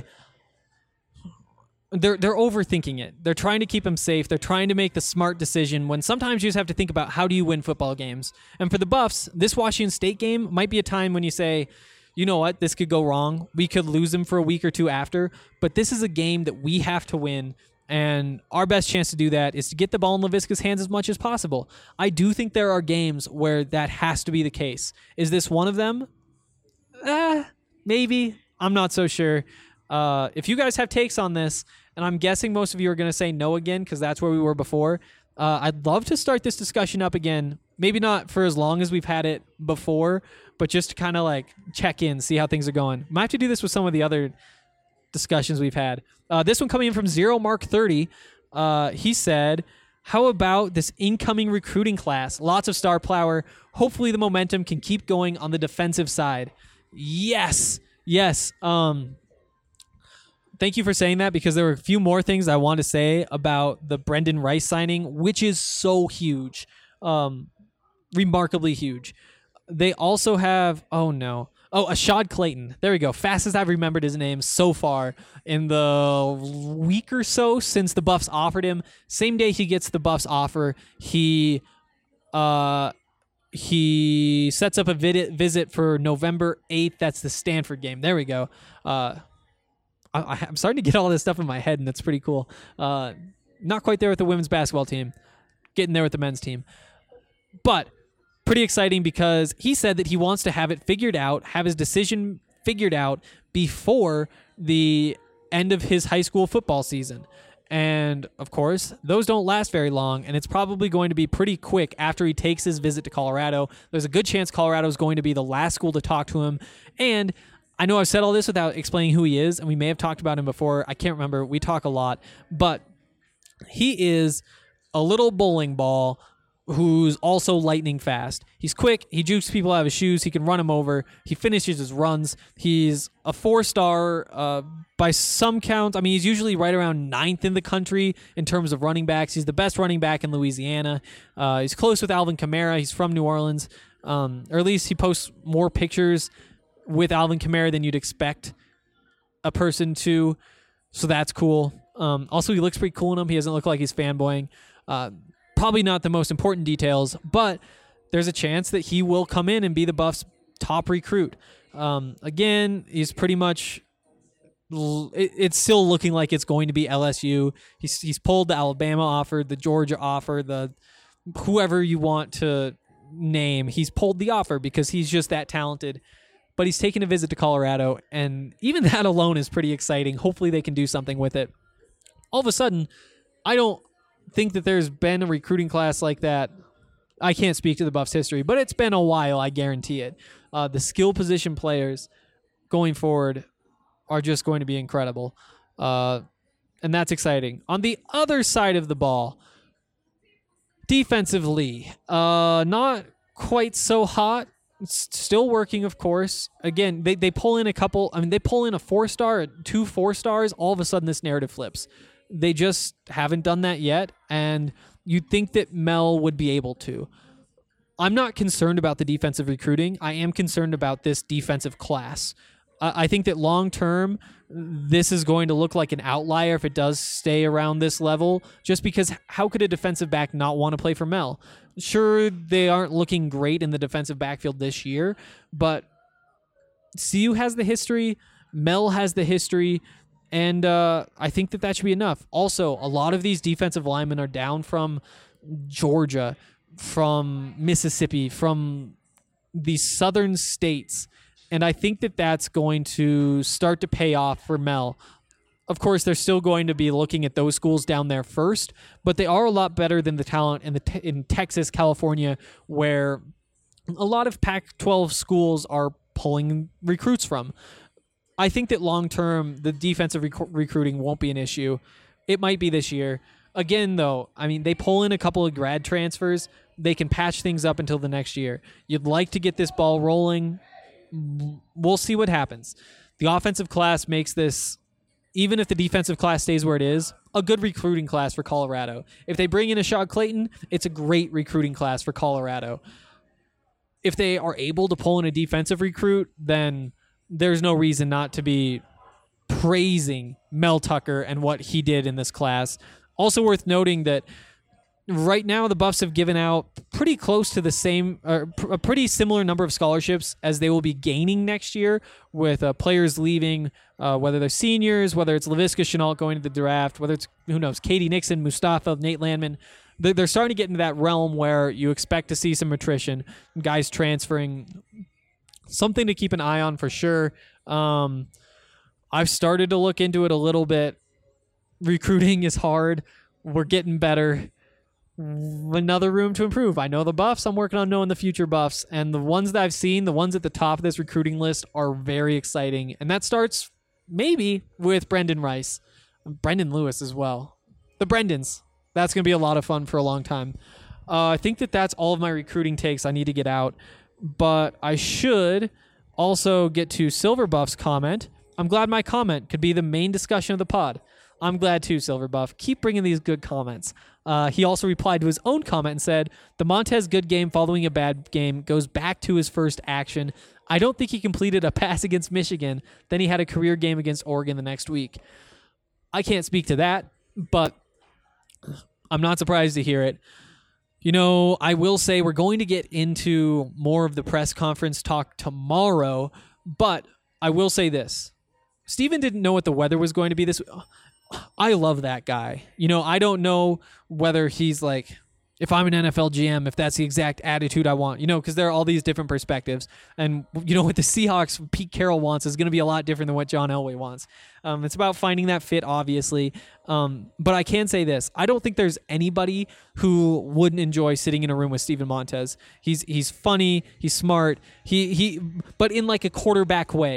they're they're overthinking it. They're trying to keep him safe. They're trying to make the smart decision when sometimes you just have to think about how do you win football games. And for the Buffs, this Washington State game might be a time when you say, you know what, this could go wrong. We could lose him for a week or two after, but this is a game that we have to win. And our best chance to do that is to get the ball in Laviska's hands as much as possible. I do think there are games where that has to be the case. Is this one of them? Uh, maybe. I'm not so sure. Uh, if you guys have takes on this, and I'm guessing most of you are going to say no again because that's where we were before, uh, I'd love to start this discussion up again. Maybe not for as long as we've had it before, but just to kind of like check in, see how things are going. Might have to do this with some of the other discussions we've had. Uh, this one coming in from Zero Mark thirty. Uh, he said, how about this incoming recruiting class? Lots of star power. Hopefully the momentum can keep going on the defensive side. Yes. Yes. Um, thank you for saying that, because there were a few more things I want to say about the Brendan Rice signing, which is so huge. Um, remarkably huge. They also have, oh no. Oh, Ashad Clayton. There we go. Fastest I've remembered his name so far in the week or so since the Buffs offered him. Same day he gets the Buffs offer, he uh, he sets up a vid- visit for November eighth. That's the Stanford game. There we go. Uh, I, I'm starting to get all this stuff in my head, and that's pretty cool. Uh, not quite there with the women's basketball team. Getting there with the men's team. But pretty exciting, because he said that he wants to have it figured out, have his decision figured out before the end of his high school football season. And, of course, those don't last very long, and it's probably going to be pretty quick after he takes his visit to Colorado. There's a good chance Colorado is going to be the last school to talk to him, and I know I've said all this without explaining who he is, and we may have talked about him before. I can't remember. We talk a lot. But he is a little bowling ball who's also lightning fast. He's quick. He jukes people out of his shoes. He can run them over. He finishes his runs. He's a four-star uh, by some counts. I mean, he's usually right around ninth in the country in terms of running backs. He's the best running back in Louisiana. Uh, he's close with Alvin Kamara. He's from New Orleans. Um, or at least he posts more pictures with Alvin Kamara than you'd expect a person to. So that's cool. Um, also, he looks pretty cool in them. He doesn't look like he's fanboying. Uh, Probably not the most important details, but there's a chance that he will come in and be the Buffs' top recruit. Um, again, he's pretty much. It, it's still looking like it's going to be L S U. He's he's pulled the Alabama offer, the Georgia offer, the whoever you want to name. He's pulled the offer because he's just that talented. But he's taken a visit to Colorado, and even that alone is pretty exciting. Hopefully, they can do something with it. All of a sudden, I don't think that there's been a recruiting class like that. I can't speak to the Buffs' history, but it's been a while, I guarantee it. Uh, the skill position players going forward are just going to be incredible. Uh, and that's exciting. On the other side of the ball, defensively, uh, not quite so hot. It's still working, of course. Again, they, they pull in a couple, I mean, they pull in a four-star, two four-stars, all of a sudden this narrative flips. They just haven't done that yet, and you'd think that Mel would be able to. I'm not concerned about the defensive recruiting. I am concerned about this defensive class. Uh, I think that long-term, this is going to look like an outlier if it does stay around this level, just because how could a defensive back not want to play for Mel? Sure, they aren't looking great in the defensive backfield this year, but C U has the history, Mel has the history, and uh, I think that that should be enough. Also, a lot of these defensive linemen are down from Georgia, from Mississippi, from the southern states, and I think that that's going to start to pay off for Mel. Of course, they're still going to be looking at those schools down there first, but they are a lot better than the talent in the te- in Texas, California, where a lot of Pac twelve schools are pulling recruits from. I think that long-term, the defensive rec- recruiting won't be an issue. It might be this year. Again, though, I mean, they pull in a couple of grad transfers. They can patch things up until the next year. You'd like to get this ball rolling. We'll see what happens. The offensive class makes this, even if the defensive class stays where it is, a good recruiting class for Colorado. If they bring in Ashad Clayton, it's a great recruiting class for Colorado. If they are able to pull in a defensive recruit, then there's no reason not to be praising Mel Tucker and what he did in this class. Also worth noting that right now the Buffs have given out pretty close to the same, or a pretty similar number of scholarships as they will be gaining next year, with uh, players leaving, uh, whether they're seniors, whether it's Laviska Shenault going to the draft, whether it's, who knows, Katie Nixon, Mustafa, Nate Landman. They're starting to get into that realm where you expect to see some attrition, guys transferring. Something to keep an eye on for sure. Um, I've started to look into it a little bit. Recruiting is hard. We're getting better. Another room to improve. I know the Buffs. I'm working on knowing the future Buffs. And the ones that I've seen, the ones at the top of this recruiting list, are very exciting. And that starts maybe with Brendan Rice. Brendan Lewis as well. The Brendans. That's going to be a lot of fun for a long time. Uh, I think that that's all of my recruiting takes I need to get out. But I should also get to Silver Buff's comment. I'm glad my comment could be the main discussion of the pod. I'm glad too, Silver Buff. Keep bringing these good comments. Uh, he also replied to his own comment and said, the Montez good game following a bad game goes back to his first action. I don't think he completed a pass against Michigan. Then he had a career game against Oregon the next week. I can't speak to that, but I'm not surprised to hear it. You know, I will say we're going to get into more of the press conference talk tomorrow, but I will say this. Steven didn't know what the weather was going to be this week. I love that guy. You know, I don't know whether he's like, if I'm an N F L G M, if that's the exact attitude I want, you know, because there are all these different perspectives. And, you know, what the Seahawks, Pete Carroll wants is going to be a lot different than what John Elway wants. Um, it's about finding that fit, obviously. Um, but I can say this. I don't think there's anybody who wouldn't enjoy sitting in a room with Steven Montez. He's he's funny. He's smart. He he, but in like a quarterback way.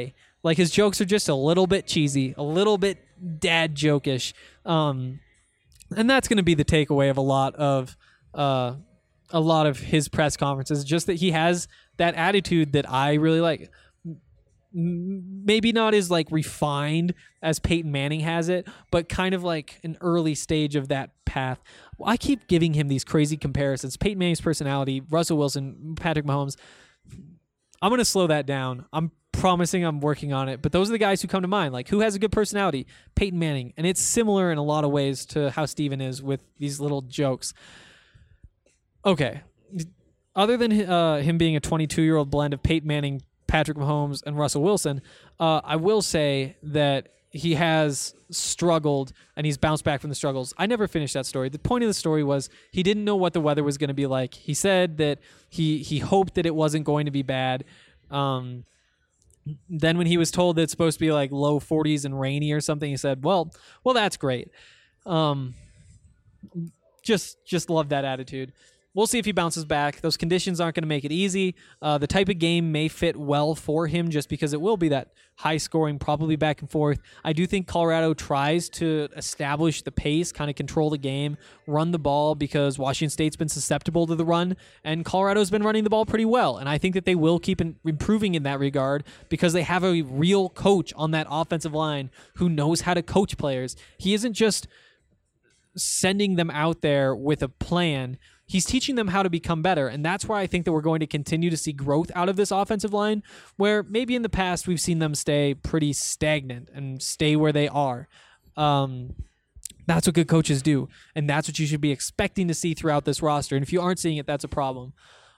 Like his jokes are just a little bit cheesy, a little bit dad jokish. Um, and that's going to be the takeaway of a lot of uh, a lot of his press conferences, just that he has that attitude that I really like. Maybe not as like refined as Peyton Manning has it, but kind of like an early stage of that path. I keep giving him these crazy comparisons. Peyton Manning's personality, Russell Wilson, Patrick Mahomes. I'm going to slow that down. I'm promising I'm working on it. But those are the guys who come to mind. Like, who has a good personality? Peyton Manning. And it's similar in a lot of ways to how Steven is with these little jokes. Okay. Other than uh, him being a twenty-two-year-old blend of Peyton Manning, Patrick Mahomes, and Russell Wilson, uh, I will say that he has struggled and he's bounced back from the struggles. I never finished that story. The point of the story was he didn't know what the weather was going to be like. He said that he he hoped that it wasn't going to be bad. Um, then when he was told that it's supposed to be like low forties and rainy or something, he said, well, well, that's great. Um, just just love that attitude. We'll see if he bounces back. Those conditions aren't going to make it easy. Uh, the type of game may fit well for him just because it will be that high scoring, probably back and forth. I do think Colorado tries to establish the pace, kind of control the game, run the ball, because Washington State's been susceptible to the run, and Colorado's been running the ball pretty well. And I think that they will keep in, improving in that regard because they have a real coach on that offensive line who knows how to coach players. He isn't just sending them out there with a plan. He's teaching them how to become better, and that's why I think that we're going to continue to see growth out of this offensive line, where maybe in the past we've seen them stay pretty stagnant and stay where they are. Um, that's what good coaches do, and that's what you should be expecting to see throughout this roster, and if you aren't seeing it, that's a problem.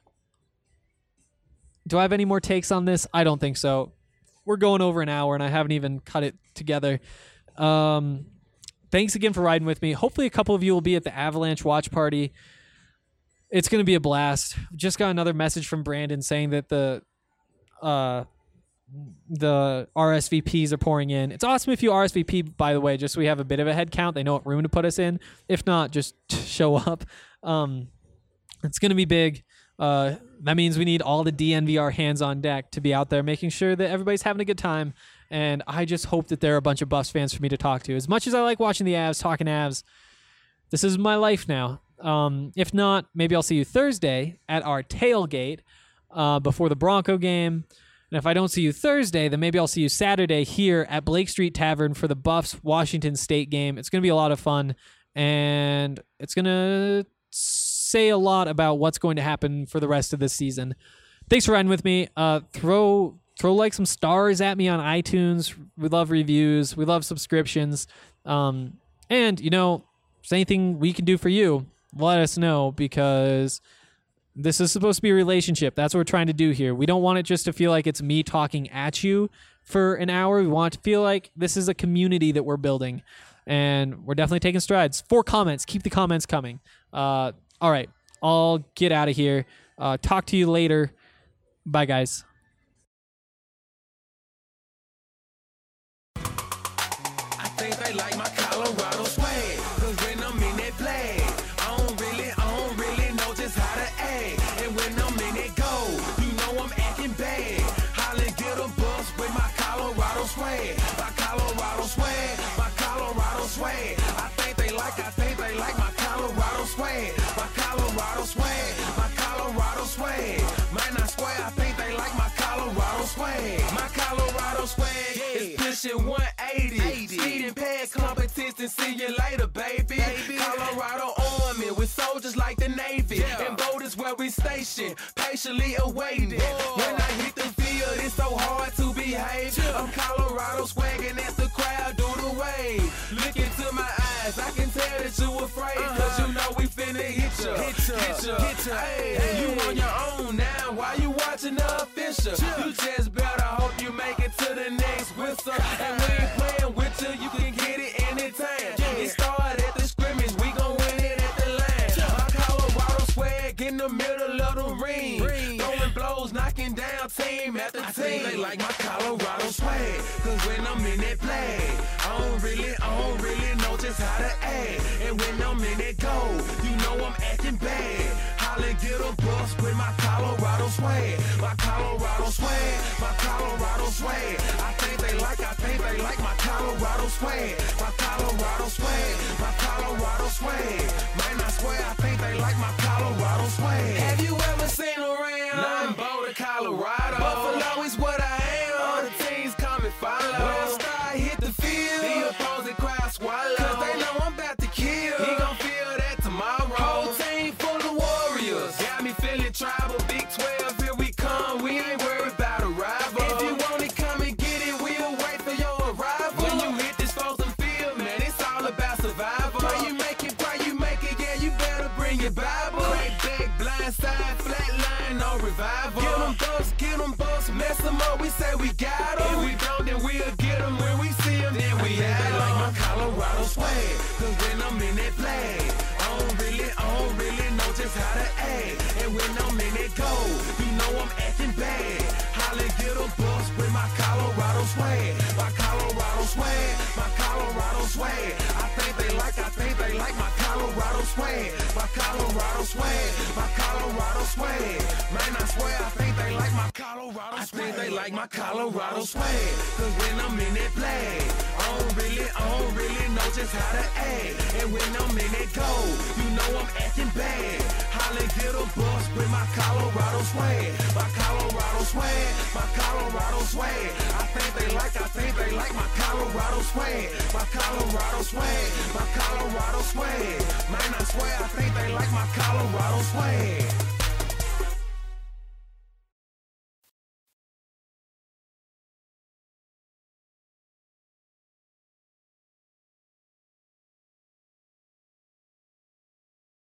Do I have any more takes on this? I don't think so. We're going over an hour, and I haven't even cut it together. Um, thanks again for riding with me. Hopefully a couple of you will be at the Avalanche watch party. It's going to be a blast. Just got another message from Brandon saying that the uh, the R S V Ps are pouring in. It's awesome if you R S V P, by the way, just so we have a bit of a head count. They know what room to put us in. If not, just show up. Um, it's going to be big. Uh, that means we need all the D N V R hands on deck to be out there making sure that everybody's having a good time. And I just hope that there are a bunch of Buffs fans for me to talk to. As much as I like watching the Avs, talking Avs, this is my life now. Um, if not, maybe I'll see you Thursday at our tailgate uh, before the Bronco game. And if I don't see you Thursday, then maybe I'll see you Saturday here at Blake Street Tavern for the Buffs Washington State game. It's going to be a lot of fun, and it's going to say a lot about what's going to happen for the rest of this season. Thanks for riding with me. Uh, throw throw like some stars at me on iTunes. We love reviews. We love subscriptions. Um, and, you know, if there's anything we can do for you, let us know, because this is supposed to be a relationship. That's what we're trying to do here. We don't want it just to feel like it's me talking at you for an hour. We want it to feel like this is a community that we're building, and we're definitely taking strides. Four comments. Keep the comments coming. Uh, all right. I'll get out of here. Uh, talk to you later. Bye, guys. I think they like my Colorado swag, 'cause when I'm in that play, I don't really, I don't really know just how to act. And when I'm in that go, you know I'm acting bad. Holla, get a bus with my Colorado swag, my Colorado swag, my Colorado swag. I think they like, I think they like my Colorado swag, my Colorado swag, my Colorado swag. Man, I swear, I think they like my Colorado swag, my Colorado swag is pushing one eighty. Speeding past competition, see you later, baby. baby. Colorado Army with soldiers like the Navy. Yeah. And boat is where we station, patiently awaiting. Whoa. When I hit the field, it's so hard to behave. Yeah. I'm Colorado swagging as the crowd do the wave. Look into my eyes, I can tell that you afraid. Uh-huh. Cause you know we finna hit ya, hit ya, hit ya. Hit ya. Hey, hey. You on your own now, why you watching the official? Yeah. You just better hope you make it to the next whistle. And we ain't playing with you, you can get it anytime. Yeah. It started at the scrimmage, we gon' win it at the line. Yeah. My Colorado swag in the middle of the ring, ring. Throwing blows, knocking down team after I team. Think they like my Colorado swag, 'cause when I'm in that play, I don't really, I don't really know just how to act. And when I'm in that go, you know I'm acting bad. Holla, get a bus with my Colorado swag, my Colorado swag, my Colorado swag. I think they they like my Colorado swag. My Colorado swag. My Colorado swag. Man, I swear I think they like my Colorado swag. Have you ever seen around? Nothing Boulder, Colorado. Buffalo is what I am. All the teams come and follow. When I start hit the field, the opposing crowd swallow. Cause they know I'm about to kill. He gon' feel that tomorrow. Whole team full of warriors. Got me feeling tribal. Big twelve, here we come. We ain't worried about a rival. If you want it, come and get it. We'll wait for your arrival. When you hit this frozen field, man, it's all about survival. Pray you make it, pray you make it. Yeah, you better bring your Bible. Crack back, blind side, flat line, no revival. Get them bucks, get them bucks, mess them up. We say we got them. If we don't, then we'll get them. When we see them, then we have them. Like my Colorado swag. Cause when I'm in that flag, I don't really, I don't really know just how to act. And when I'm in that goal, you know I'm acting bad. Holly get a bus with my Colorado swag. My Colorado swag, my Colorado swag. I think they like, I think they like my Colorado swag. My Colorado swag, my Colorado swag. Man, I swear I think they like my Colorado swag. I think they like my Colorado swag. Cause when I'm in that flag, I don't really, I don't really know just how to act. And when I'm in that goal, you know I'm acting bad. Holly get a bus with my Colorado swag. My Colorado swag, my Colorado swag. I think they like, I think they like my Colorado swag. My Colorado swag, my Colorado swag. Man, I swear I think they like my Colorado swag.